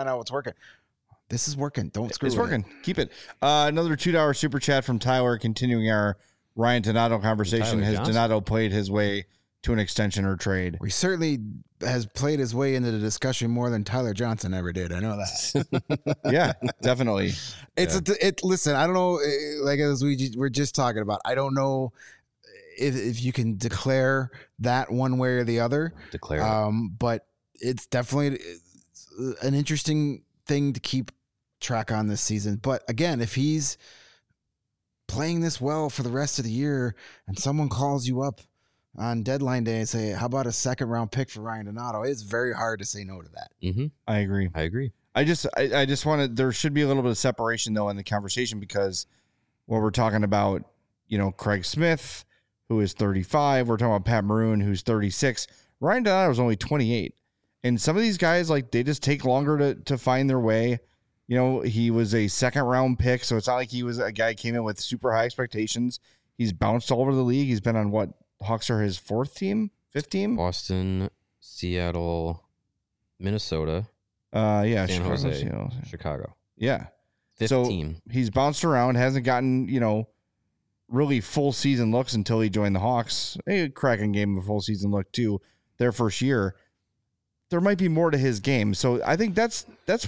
Speaker 3: This is working. Don't screw it.
Speaker 1: It's working. Keep it. Another $2 super chat from Tyler, continuing our Ryan Donato conversation. Has Donato played his way to an extension or trade?
Speaker 3: He certainly has played his way into the discussion more than Tyler Johnson ever did. I know that.
Speaker 1: Yeah, definitely.
Speaker 3: Listen, I don't know, like as we're just talking about, I don't know if you can declare that one way or the other. But it's definitely an interesting thing to keep track on this season. But again, if he's playing this well for the rest of the year and someone calls you up on deadline day and say, how about a 2nd-round pick for Ryan Donato? It's very hard to say no to that.
Speaker 2: Mm-hmm.
Speaker 1: I agree. I just wanted, there should be a little bit of separation though in the conversation, because when we're talking about, Craig Smith, who is 35, we're talking about Pat Maroon, who's 36. Ryan Donato is only 28. And some of these guys, like, they just take longer to find their way. He was a 2nd-round pick, so it's not like he was a guy who came in with super high expectations. He's bounced all over the league. He's been on what? Hawks are his 4th team? 5th team?
Speaker 2: Boston, Seattle, Minnesota.
Speaker 1: Yeah,
Speaker 2: San
Speaker 1: Chicago,
Speaker 2: Jose,
Speaker 1: Seattle.
Speaker 2: Chicago.
Speaker 1: Yeah.
Speaker 2: 5th team.
Speaker 1: He's bounced around, hasn't gotten, really full season looks until he joined the Hawks. A cracking game of a full season look too, their first year. There might be more to his game. So I think that's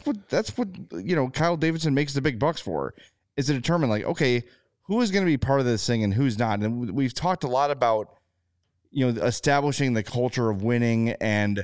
Speaker 1: what Kyle Davidson makes the big bucks for, is to determine, like, okay, who is going to be part of this thing and who's not. And we've talked a lot about, establishing the culture of winning, and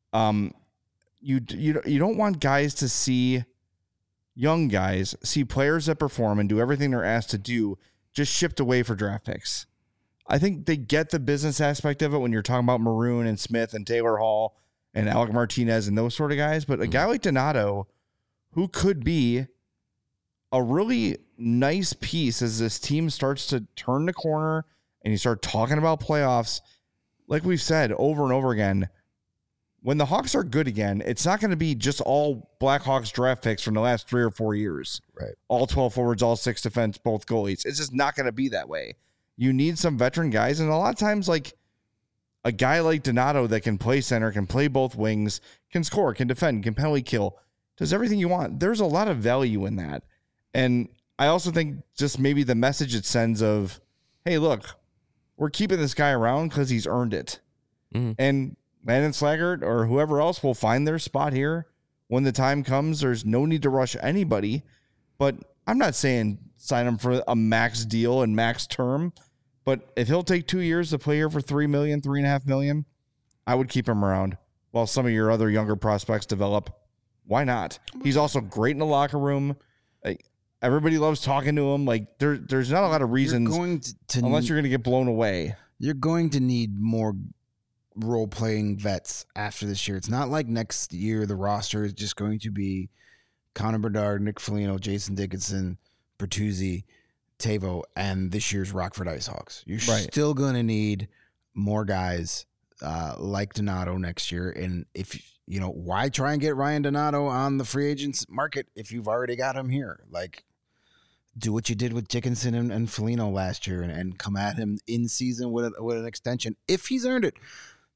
Speaker 1: you don't want guys to see, young guys see players that perform and do everything they're asked to do just shipped away for draft picks. I think they get the business aspect of it when you're talking about Maroon and Smith and Taylor Hall and Alec Martinez and those sort of guys. But a guy like Donato, who could be a really nice piece as this team starts to turn the corner and you start talking about playoffs, like we've said over and over again, when the Hawks are good again, it's not going to be just all Blackhawks draft picks from the last 3 or 4 years.
Speaker 3: Right.
Speaker 1: All 12 forwards, all 6 defense, both goalies. It's just not going to be that way. You need some veteran guys. And a lot of times, like, a guy like Donato that can play center, can play both wings, can score, can defend, can penalty kill, does everything you want. There's a lot of value in that. And I also think just maybe the message it sends of, hey, look, we're keeping this guy around because he's earned it. Mm-hmm. And Landon Slaggert or whoever else will find their spot here when the time comes. There's no need to rush anybody. But I'm not saying sign him for a max deal and max term. But if he'll take 2 years to play here for $3 million, $3.5 million, I would keep him around while some of your other younger prospects develop. Why not? He's also great in the locker room. Like, everybody loves talking to him. Like, there's not a lot of reasons unless you're going to get blown away.
Speaker 3: You're going to need more role-playing vets after this year. It's not like next year the roster is just going to be Connor Bedard, Nick Foligno, Jason Dickinson, Bertuzzi, Teuvo, and this year's Rockford IceHawks. You're still going to need more guys like Donato next year. And if why try and get Ryan Donato on the free agents market if you've already got him here? Like, do what you did with Dickinson and Foligno last year and come at him in season with an extension if he's earned it.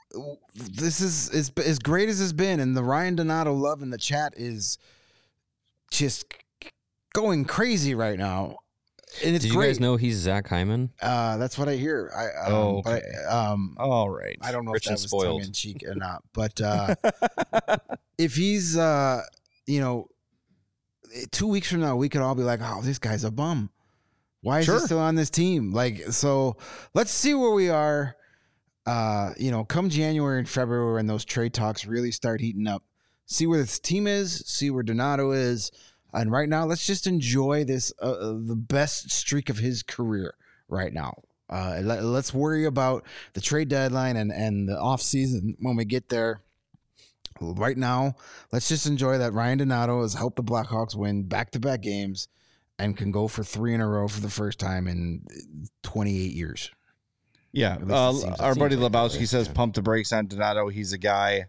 Speaker 3: this is as great as it's been, and the Ryan Donato love in the chat is just going crazy right now. And it's
Speaker 2: Did you
Speaker 3: great.
Speaker 2: guys know he's Zach Hyman?
Speaker 3: That's what I hear.
Speaker 1: Okay.
Speaker 3: All
Speaker 1: right.
Speaker 3: I don't know
Speaker 2: Rich
Speaker 3: if that
Speaker 2: and
Speaker 3: was
Speaker 2: spoiled.
Speaker 3: tongue in cheek or not, but if he's, 2 weeks from now, we could all be like, "Oh, this guy's a bum. Why is he still on this team?" Like, so let's see where we are. Come January and February when those trade talks really start heating up. See where this team is. See where Donato is. And right now, let's just enjoy this, the best streak of his career right now. Let's worry about the trade deadline and the offseason when we get there. Right now, let's just enjoy that Ryan Donato has helped the Blackhawks win back-to-back games and can go for 3 in a row for the first time in 28 years.
Speaker 1: Yeah. Our buddy Lebowski says pump the brakes on Donato. He's a guy.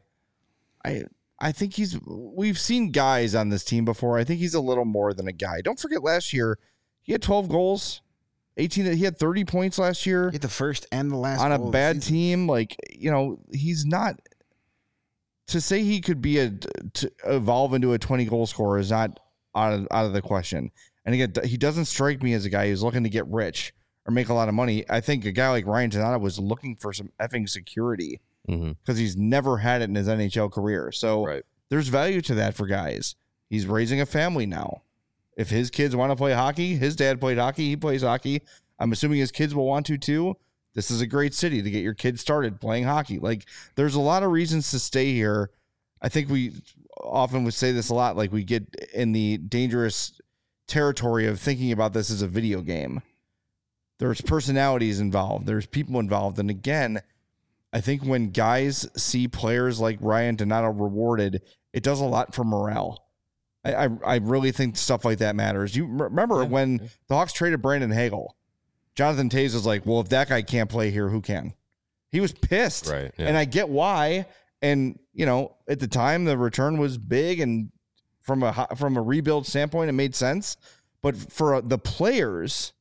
Speaker 1: I think we've seen guys on this team before. I think he's a little more than a guy. Don't forget last year, he had 12 goals, 18. He had 30 points last year.
Speaker 3: He had the first and the last
Speaker 1: on a
Speaker 3: goal of
Speaker 1: bad
Speaker 3: the season.
Speaker 1: team. Like, he's not, to say he could be to evolve into a 20 goal scorer is not out of the question. And again, he doesn't strike me as a guy who's looking to get rich or make a lot of money. I think a guy like Ryan Donato was looking for some effing security because he's never had it in his NHL career. So there's value to that for guys. He's raising a family now. If his kids want to play hockey, his dad played hockey, he plays hockey. I'm assuming his kids will want to too. This is a great city to get your kids started playing hockey. Like, there's a lot of reasons to stay here. I think we often would say this a lot. Like, we get in the dangerous territory of thinking about this as a video game. There's personalities involved. There's people involved. And again, I think when guys see players like Ryan Donato rewarded, it does a lot for morale. I really think stuff like that matters. You remember when the Hawks traded Brandon Hagel, Jonathan Toews was like, well, if that guy can't play here, who can? He was pissed.
Speaker 2: Right. Yeah.
Speaker 1: And I get why. And, at the time, the return was big. And from a rebuild standpoint, it made sense. But for the players,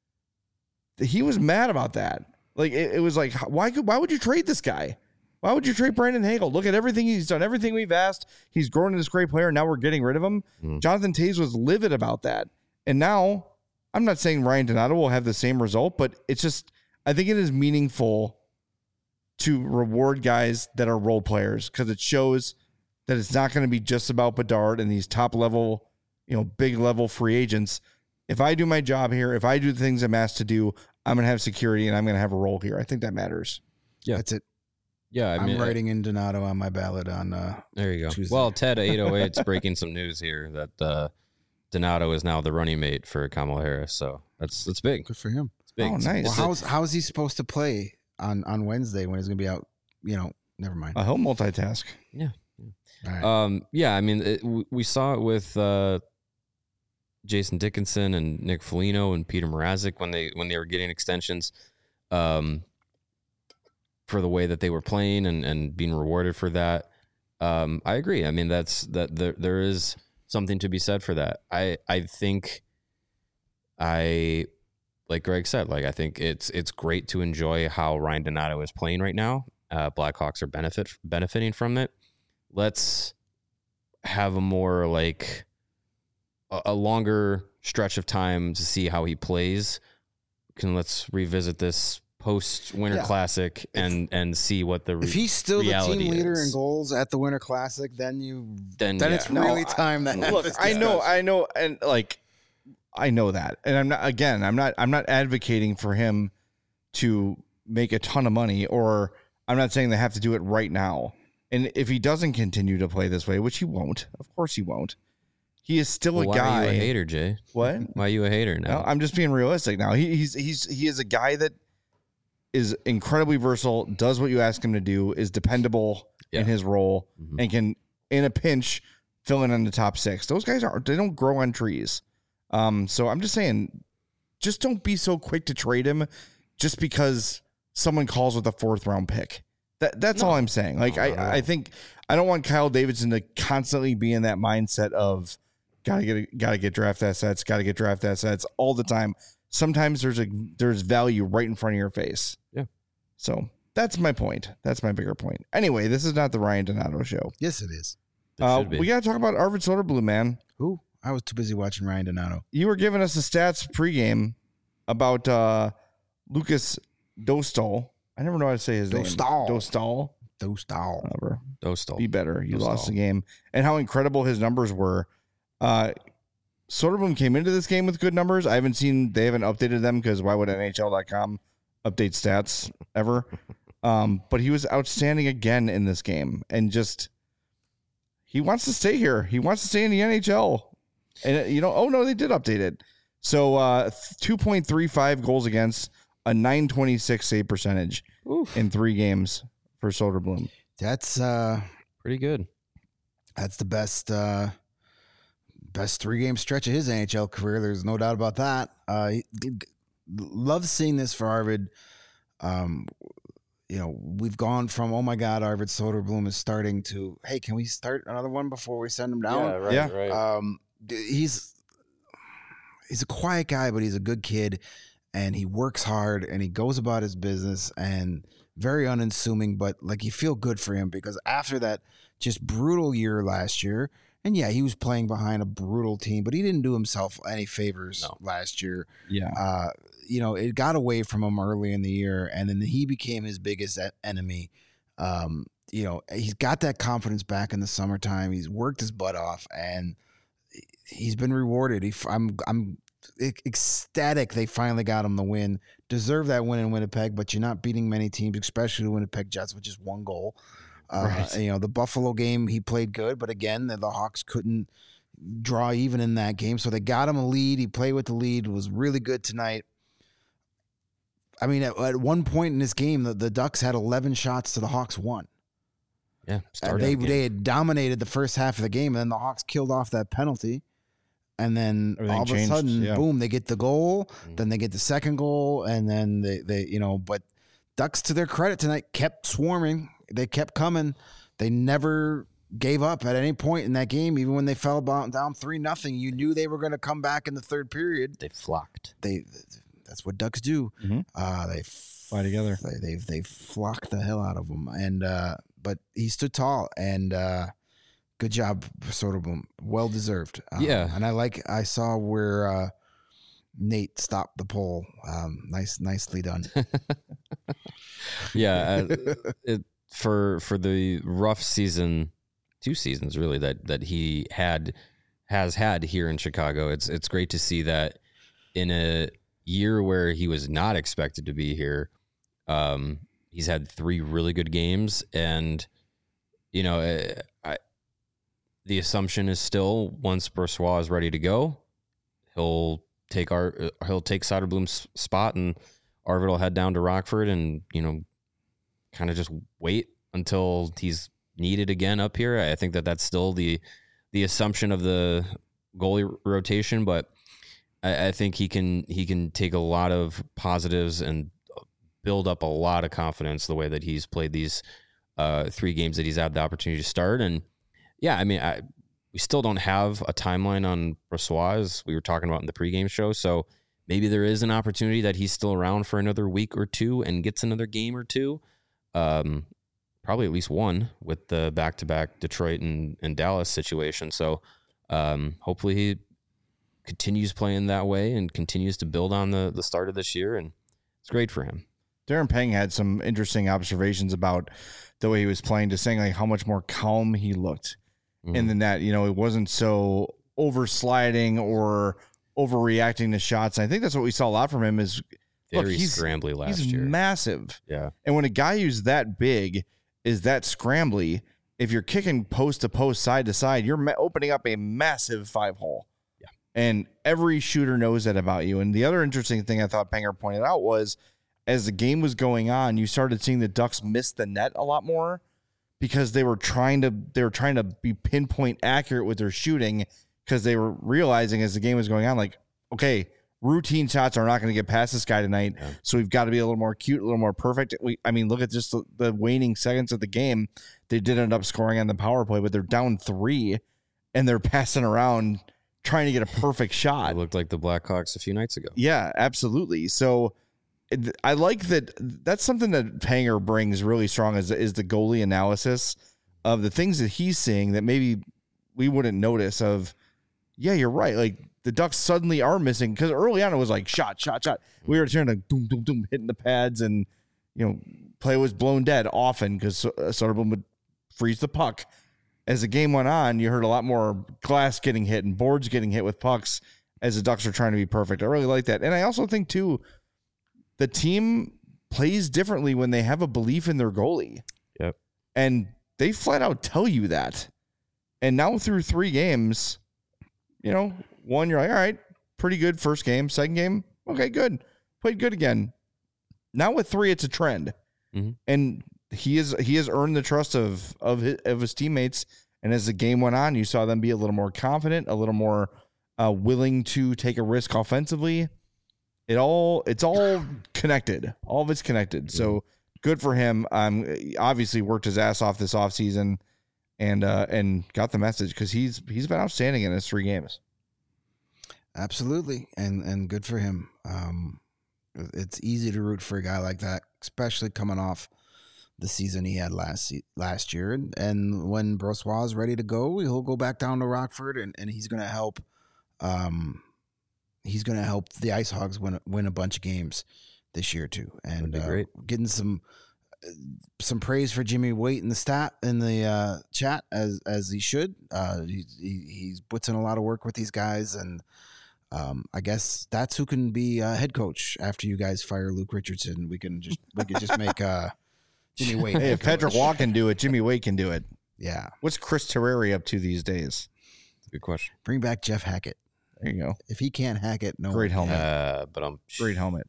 Speaker 1: he was mad about that. Like, it was like, why would you trade this guy? Why would you trade Brandon Hagel? Look at everything he's done, everything we've asked. He's grown into this great player. Now we're getting rid of him. Jonathan Toews was livid about that. And now, I'm not saying Ryan Donato will have the same result, but it's just, I think it is meaningful to reward guys that are role players because it shows that it's not going to be just about Bedard and these top level, big level free agents. If I do my job here, if I do the things I'm asked to do, I'm going to have security and I'm going to have a role here. I think that matters.
Speaker 2: Yeah.
Speaker 3: That's it.
Speaker 2: Yeah,
Speaker 3: I'm writing in Donato on my ballot on
Speaker 2: there you go.
Speaker 3: Tuesday.
Speaker 2: Well, Ted 808's breaking some news here that Donato is now the running mate for Kamala Harris. So that's big.
Speaker 3: Good for him.
Speaker 2: It's big.
Speaker 1: Oh, nice.
Speaker 3: Well, how's he supposed to play on Wednesday when he's going to be out? Never mind.
Speaker 1: He'll multitask.
Speaker 2: Yeah.
Speaker 3: All right.
Speaker 2: Yeah, I mean, we saw it with Jason Dickinson and Nick Foligno and Peter Mrazek when they were getting extensions for the way that they were playing and being rewarded for that. I agree. I mean, there is something to be said for that. I think like Greg said, like, I think it's great to enjoy how Ryan Donato is playing right now. Blackhawks are benefiting from it. Let's have a more like a longer stretch of time to see how he plays. Let's revisit this post-Winter Classic and see what the
Speaker 3: if he's still the team leader
Speaker 2: is.
Speaker 3: in goals at the Winter Classic, then it's
Speaker 1: No,
Speaker 3: really time that
Speaker 1: look, I know, and like I know that, and I'm not advocating for him to make a ton of money, or I'm not saying they have to do it right now. And if he doesn't continue to play this way, which he won't, of course he won't, he is still a guy.
Speaker 2: Why are you a hater, Jay?
Speaker 1: What?
Speaker 2: Why are you a hater now?
Speaker 1: No, I'm just being realistic now. He is a guy that is incredibly versatile, does what you ask him to do, is dependable in his role, and can, in a pinch, fill in on the top six. Those guys they don't grow on trees. So I'm just saying, just don't be so quick to trade him just because someone calls with a 4th round pick. That's all I'm saying. Like, I think I don't want Kyle Davidson to constantly be in that mindset of gotta get draft assets all the time. Sometimes there's value right in front of your face.
Speaker 2: Yeah.
Speaker 1: So That's my point. That's my bigger point. Anyway, this is not the Ryan Donato show.
Speaker 3: Yes, it is.
Speaker 2: It should be.
Speaker 1: We got to talk about Arvid Soderblom, man.
Speaker 3: Who? I was too busy watching Ryan Donato.
Speaker 1: You were giving us the stats pregame about Lucas Dostal. I never know how to say his name. Dostal. Whatever.
Speaker 2: Dostal.
Speaker 1: Be better. You
Speaker 2: Dostal.
Speaker 1: lost the game. And how incredible his numbers were. Soderblom came into this game with good numbers. They haven't updated them because why would NHL.com update stats ever? But he was outstanding again in this game. And just, he wants to stay here. He wants to stay in the NHL. And, they did update it. So 2.35 goals against, a .926 save percentage in 3 games for Soderblom.
Speaker 3: That's
Speaker 2: pretty good.
Speaker 3: That's the best 3-game stretch of his NHL career. There's no doubt about that. Love seeing this for Arvid. We've gone from, oh my God, Arvid Soderblom is starting to, hey, can we start another one before we send him down?
Speaker 2: Right.
Speaker 3: He's a quiet guy, but he's a good kid, and he works hard, and he goes about his business, and very unassuming, but like you feel good for him because after that just brutal year last year, and yeah, he was playing behind a brutal team, but he didn't do himself any favors last year.
Speaker 1: Yeah.
Speaker 3: It got away from him early in the year, and then he became his biggest enemy. He's got that confidence back in the summertime. He's worked his butt off, and he's been rewarded. I'm ecstatic they finally got him the win. Deserve that win in Winnipeg, but you're not beating many teams, especially the Winnipeg Jets, with just 1 goal.
Speaker 1: Right.
Speaker 3: The Buffalo game, he played good, but again, the Hawks couldn't draw even in that game, so they got him a lead. He played with the lead, was really good tonight. I mean, at one point in this game, the Ducks had 11 shots to the Hawks 1.
Speaker 2: Yeah,
Speaker 3: they had dominated the first half of the game, and then the Hawks killed off that penalty. And then
Speaker 1: Everything
Speaker 3: all of
Speaker 1: changed,
Speaker 3: a sudden, boom, they get the goal. Then they get the second goal, and then but Ducks, to their credit tonight, kept swarming. They kept coming. They never gave up at any point in that game, even when they fell down 3-0. You knew they were going to come back in the third period.
Speaker 2: They flocked.
Speaker 3: That's what Ducks do.
Speaker 1: Mm-hmm.
Speaker 3: They
Speaker 1: fly together.
Speaker 3: They flocked the hell out of them, and but he stood tall, and good job, Soderblom. Well deserved. And I saw where Nate stopped the poll. Nicely done.
Speaker 2: Yeah, for the rough season, 2 seasons really that he has had here in Chicago. It's great to see that in a year where he was not expected to be here. He's had 3 really good games, and the assumption is still once Brossoit is ready to go, he'll take Soderblom's spot, and Arvid will head down to Rockford and kind of just wait until he's needed again up here. I think that's still the assumption of the goalie rotation, but I think he can take a lot of positives and build up a lot of confidence the way that he's played these 3 games that he's had the opportunity to start. And yeah, I mean, we still don't have a timeline on Brossoit, as we were talking about in the pregame show. So maybe there is an opportunity that he's still around for another week or 2 and gets another game or 2. Probably at least 1 with the back-to-back Detroit and Dallas situation. So hopefully he continues playing that way and continues to build on the start of this year, and it's great for him.
Speaker 1: Darren Pang had some interesting observations about the way he was playing, just saying like how much more calm he looked in the net. It wasn't so oversliding or overreacting to shots. And I think that's what we saw a lot from him. Is
Speaker 2: very scrambly last year.
Speaker 1: He's massive.
Speaker 2: Yeah.
Speaker 1: And when a guy who's that big is that scrambly, if you're kicking post to post, side to side, you're opening up a massive 5-hole.
Speaker 2: Yeah.
Speaker 1: And every shooter knows that about you. And the other interesting thing I thought Panger pointed out was, as the game was going on, you started seeing the Ducks miss the net a lot more because they were trying to be pinpoint accurate with their shooting, because they were realizing as the game was going on, like, okay, routine shots are not going to get past this guy tonight. Yeah. So we've got to be a little more cute, a little more perfect. Look at just the waning seconds of the game. They did end up scoring on the power play, but they're down 3 and they're passing around trying to get a perfect shot.
Speaker 2: It looked like the Blackhawks a few nights ago.
Speaker 1: Yeah, absolutely. So I like that. That's something that Panger brings really strong is the goalie analysis of the things that he's seeing that maybe we wouldn't notice of. Yeah, you're right. Like the Ducks suddenly are missing because early on it was like shot. We were turning like boom, boom, boom, hitting the pads, and play was blown dead often because Soderblom would freeze the puck. As the game went on, you heard a lot more glass getting hit and boards getting hit with pucks as the Ducks are trying to be perfect. I really like that, and I also think too, the team plays differently when they have a belief in their goalie.
Speaker 2: Yep,
Speaker 1: and they flat out tell you that. And now through 3 games. One, you're like, all right, pretty good first game. Second game, okay, good. Played good again. Now with 3, it's a trend.
Speaker 2: Mm-hmm.
Speaker 1: And he has earned the trust of his teammates. And as the game went on, you saw them be a little more confident, a little more willing to take a risk offensively. It's all connected. All of it's connected. Mm-hmm. So good for him. Obviously worked his ass off this offseason. And got the message because he's been outstanding in his 3 games.
Speaker 3: Absolutely, and good for him. It's easy to root for a guy like that, especially coming off the season he had last year. And when Brossoit is ready to go, he'll go back down to Rockford, and he's going to help. He's going to help the Ice Hogs win a bunch of games this year too, and getting some praise for Jimmy Waite in the chat as he should. He puts in a lot of work with these guys, and I guess that's who can be head coach after you guys fire Luke Richardson. We could just make Jimmy Waite.
Speaker 1: Hey, if Patrick Waugh can do it, Jimmy Waite can do it.
Speaker 3: Yeah.
Speaker 1: What's Chris Terreri up to these days?
Speaker 2: Good question.
Speaker 3: Bring back Jeff Hackett.
Speaker 1: There you go.
Speaker 3: If he can't hack it, no.
Speaker 1: Great helmet. Great helmet.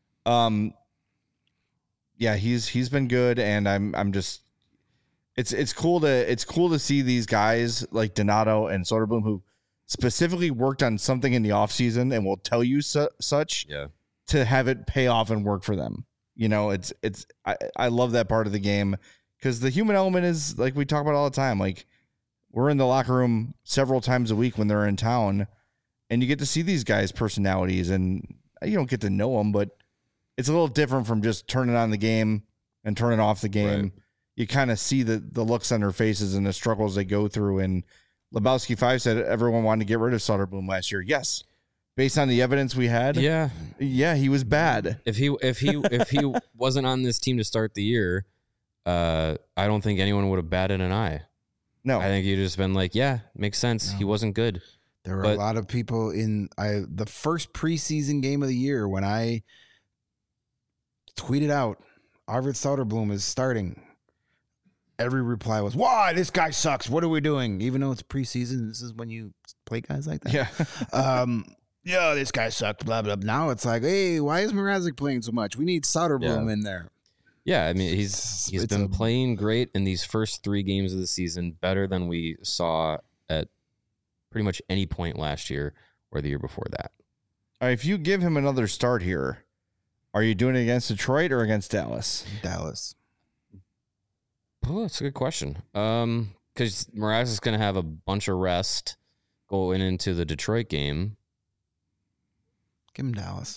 Speaker 1: Yeah, he's been good, and I'm just it's cool to see these guys like Donato and Soderblom who specifically worked on something in the offseason and will tell you such to have it pay off and work for them. I love that part of the game because the human element is like we talk about all the time. Like we're in the locker room several times a week when they're in town, and you get to see these guys' personalities, and you don't get to know them, but it's a little different from just turning on the game and turning off the game. Right. You kind of see the looks on their faces and the struggles they go through. And Lebowski 5 said everyone wanted to get rid of Soderblom last year. Yes. Based on the evidence we had.
Speaker 2: Yeah.
Speaker 1: Yeah, he was bad.
Speaker 2: If he wasn't on this team to start the year, I don't think anyone would have batted an eye.
Speaker 1: No.
Speaker 2: I think you'd just been like, yeah, makes sense. No. He wasn't good.
Speaker 3: There were a lot of people in the first preseason game of the year when I tweeted out, Arvid Soderblom is starting. Every reply was, why? This guy sucks. What are we doing? Even though it's preseason, this is when you play guys like that.
Speaker 1: Yeah.
Speaker 3: This guy sucked, blah, blah. Now it's like, hey, why is Mrazek playing so much? We need Soderblom in there.
Speaker 2: Yeah, I mean, he's been playing great in these first 3 games of the season, better than we saw at pretty much any point last year or the year before that.
Speaker 1: All right, if you give him another start here, are you doing it against Detroit or against Dallas?
Speaker 3: Dallas.
Speaker 2: Oh, that's a good question. Because Mrazek is going to have a bunch of rest going into the Detroit game.
Speaker 3: Give him Dallas.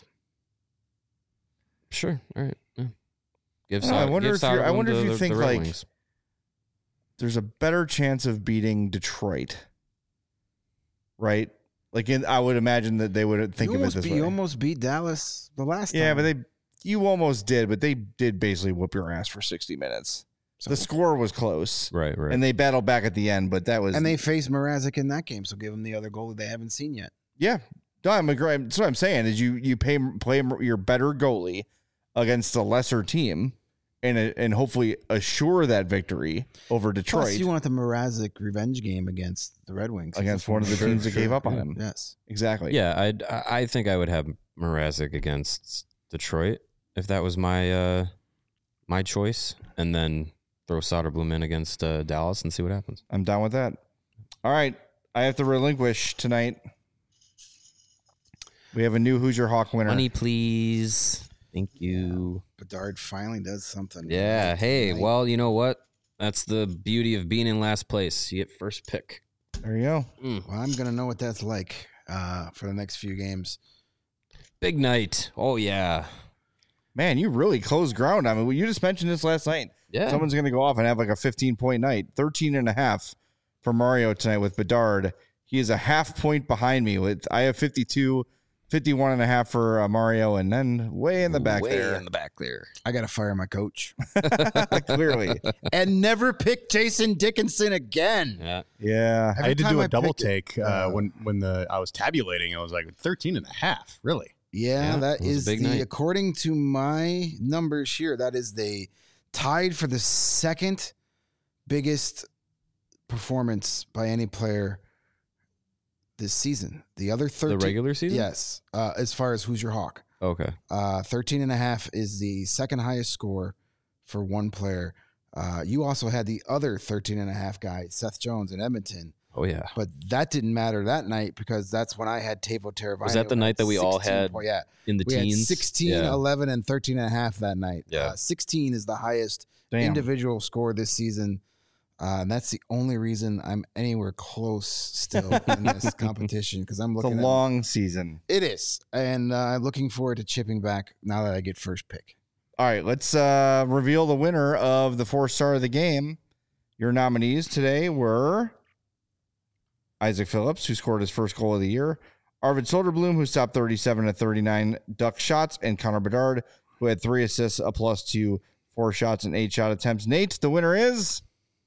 Speaker 2: Sure. All right. Yeah.
Speaker 1: I wonder if you think like Wings. There's a better chance of beating Detroit, right? Like I would imagine that they would think of it this way.
Speaker 3: You almost beat Dallas the last time.
Speaker 1: Yeah, but you almost did, but they did basically whoop your ass for 60 minutes. So, the score was close.
Speaker 2: Right.
Speaker 1: And they battled back at the end, but that was...
Speaker 3: And they faced Mrazek in that game, so give them the other goalie they haven't seen yet.
Speaker 1: Yeah. No, I'm agree. That's what I'm saying, is you play your better goalie against a lesser team and hopefully assure that victory over Detroit.
Speaker 3: Plus, you want the Mrazek revenge game against the Red Wings.
Speaker 1: Against one of the teams that gave up on him.
Speaker 3: Yes.
Speaker 1: Exactly.
Speaker 2: Yeah, I think I would have Mrazek against Detroit if that was my my choice, and then throw Soderblom in against Dallas and see what happens.
Speaker 1: I'm down with that. All right. I have to relinquish tonight. We have a new Hoosier Hawk winner.
Speaker 2: Money, please. Thank you.
Speaker 3: Bedard finally does something.
Speaker 2: Yeah. Hey, tonight. Well, you know what? That's the beauty of being in last place. You get first pick.
Speaker 1: There you go.
Speaker 3: Well, I'm going to know what that's like for the next few games.
Speaker 2: Big night. Oh, yeah.
Speaker 1: Man, you really closed ground. I mean, you just mentioned this last night.
Speaker 2: Yeah.
Speaker 1: Someone's going to go off and have like a 15-point night. 13.5 for Mario tonight with Bedard. He is a half point behind me. I have 52, 51.5 for Mario, and then way in the back there.
Speaker 3: I got to fire my coach.
Speaker 1: Clearly.
Speaker 3: And never pick Jason Dickinson again.
Speaker 2: Yeah.
Speaker 1: Yeah.
Speaker 3: Every
Speaker 4: I had to
Speaker 3: time
Speaker 4: do
Speaker 3: I
Speaker 4: a double
Speaker 3: pick
Speaker 4: take
Speaker 3: it,
Speaker 4: when I was tabulating. I was like 13.5. Really?
Speaker 3: Yeah,
Speaker 2: Yeah,
Speaker 3: that
Speaker 2: it was a
Speaker 3: is
Speaker 2: big
Speaker 3: the,
Speaker 2: night.
Speaker 3: according to my numbers here, that is the tied for the second biggest performance by any player this season. The other 13.
Speaker 2: The regular season?
Speaker 3: Yes. As far as who's your Hawk.
Speaker 2: Okay.
Speaker 3: 13.5 is the second highest score for one player. You also had the other 13.5 guy, Seth Jones in Edmonton.
Speaker 2: Oh, yeah.
Speaker 3: But that didn't matter that night because that's when I had Teuvo Teravainen.
Speaker 2: Was that the night that we all had
Speaker 3: Yeah.
Speaker 2: in the
Speaker 3: We
Speaker 2: teens?
Speaker 3: had 16,
Speaker 2: Yeah.
Speaker 3: 11, and 13.5 that night.
Speaker 2: Yeah.
Speaker 3: 16 is the highest
Speaker 1: Damn.
Speaker 3: individual score this season. And that's the only reason I'm anywhere close still in this competition because I'm
Speaker 1: It's a
Speaker 3: looking
Speaker 1: long season.
Speaker 3: It is. And I'm looking forward to chipping back now that I get first pick.
Speaker 1: All right, let's reveal the winner of the 4-star of the game. Your nominees today were Isaac Phillips, who scored his first goal of the year, Arvid Soderblom, who stopped 37 of 39 duck shots, and Connor Bedard, who had 3 assists, a +2, 4 shots, and 8 shot attempts. Nate, the winner is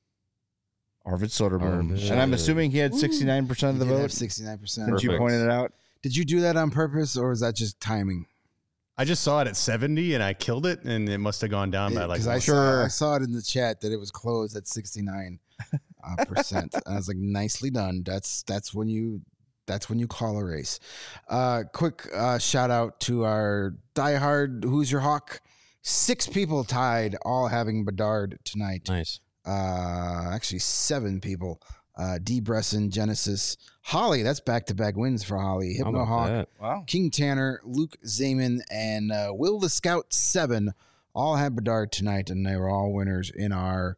Speaker 1: Arvid Soderblom.
Speaker 2: Arvid.
Speaker 1: And I'm assuming he had 69% of the
Speaker 3: You did
Speaker 1: vote
Speaker 3: have 69%.
Speaker 1: since you
Speaker 2: Perfect.
Speaker 1: pointed it out.
Speaker 3: Did you do that on purpose or is that just timing?
Speaker 4: I just saw it at 70 and I killed it, and it must have gone down by like
Speaker 3: Because I saw it in the chat that it was closed at 69%. And I was like, nicely done. That's when you call a race. Quick shout out to our diehard Who's Your Hawk. 6 people tied, all having Bedard tonight.
Speaker 2: Nice.
Speaker 3: Actually 7 people. D. Bresson, Genesis, Holly. That's back-to-back wins for Holly.
Speaker 2: How
Speaker 3: Hypno
Speaker 2: about
Speaker 3: Hawk,
Speaker 2: that?
Speaker 1: Wow.
Speaker 3: King Tanner, Luke Zeman, and Will the Scout 7 all had Bedard tonight, and they were all winners in our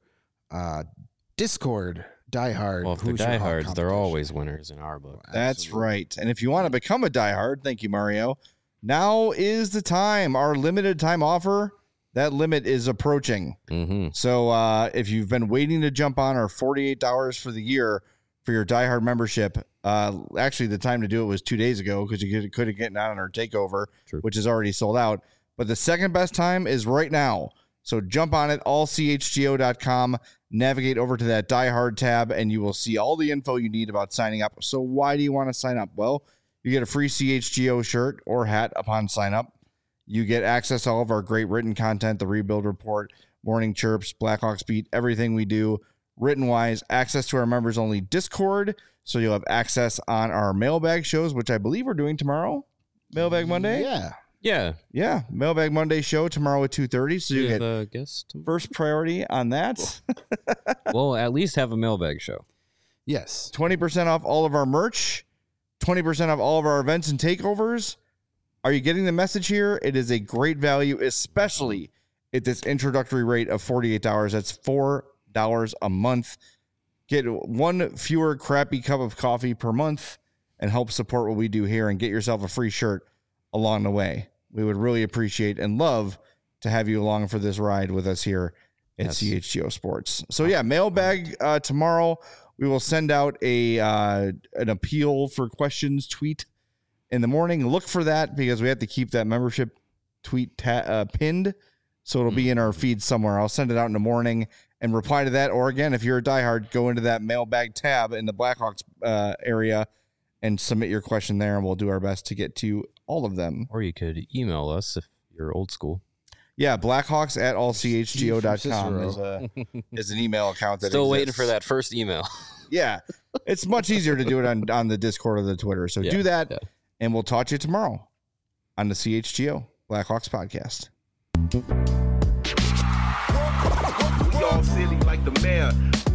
Speaker 3: Discord diehard.
Speaker 2: Well, if they're
Speaker 3: Who's Your Hawk
Speaker 2: diehards, they're
Speaker 3: competition.
Speaker 2: always winners in our book.
Speaker 1: That's
Speaker 3: Absolutely.
Speaker 1: right. And if you want to become a diehard, thank you, Mario. Now is the time. Our limited time offer, that limit is approaching.
Speaker 2: Mm-hmm.
Speaker 1: So if you've been waiting to jump on our $48 for the year for your diehard membership, actually the time to do it was 2 days ago because you could have gotten on our takeover,
Speaker 2: True.
Speaker 1: which is already sold out. But the second best time is right now. So jump on it, allchgo.com, navigate over to that diehard tab, and you will see all the info you need about signing up. So why do you want to sign up? Well, you get a free CHGO shirt or hat upon sign up. You get access to all of our great written content, the Rebuild Report, Morning Chirps, Blackhawks Beat, everything we do written-wise, access to our members-only Discord, so you'll have access on our mailbag shows, which I believe we're doing tomorrow, Mailbag Monday.
Speaker 3: Yeah.
Speaker 1: Yeah, Mailbag Monday show tomorrow at 2:30, so you get
Speaker 2: the guest.
Speaker 1: first priority on that.
Speaker 2: Well, at least have a mailbag show.
Speaker 3: Yes.
Speaker 1: 20% off all of our merch, 20% off all of our events and takeovers. Are you getting the message here? It is a great value, especially at this introductory rate of $48. That's $4 a month. Get one fewer crappy cup of coffee per month and help support what we do here and get yourself a free shirt along the way. We would really appreciate and love to have you along for this ride with us here at
Speaker 2: Yes.
Speaker 1: CHGO Sports. So yeah, mailbag tomorrow. We will send out an appeal for questions tweet in the morning. Look for that because we have to keep that membership tweet pinned. So it'll be in our feed somewhere. I'll send it out in the morning and reply to that. Or again, if you're a diehard, go into that mailbag tab in the Blackhawks area and submit your question there. And we'll do our best to get to all of them.
Speaker 2: Or you could email us if you're old school.
Speaker 1: Yeah, Blackhawks at allchgo.com is an email account that
Speaker 2: Still waiting
Speaker 1: exists.
Speaker 2: for that first email.
Speaker 1: Yeah, it's much easier to do it on the Discord or the Twitter. So do that,
Speaker 2: yeah.
Speaker 1: and we'll talk to you tomorrow on the CHGO Blackhawks podcast.
Speaker 5: We all silly like the mayor.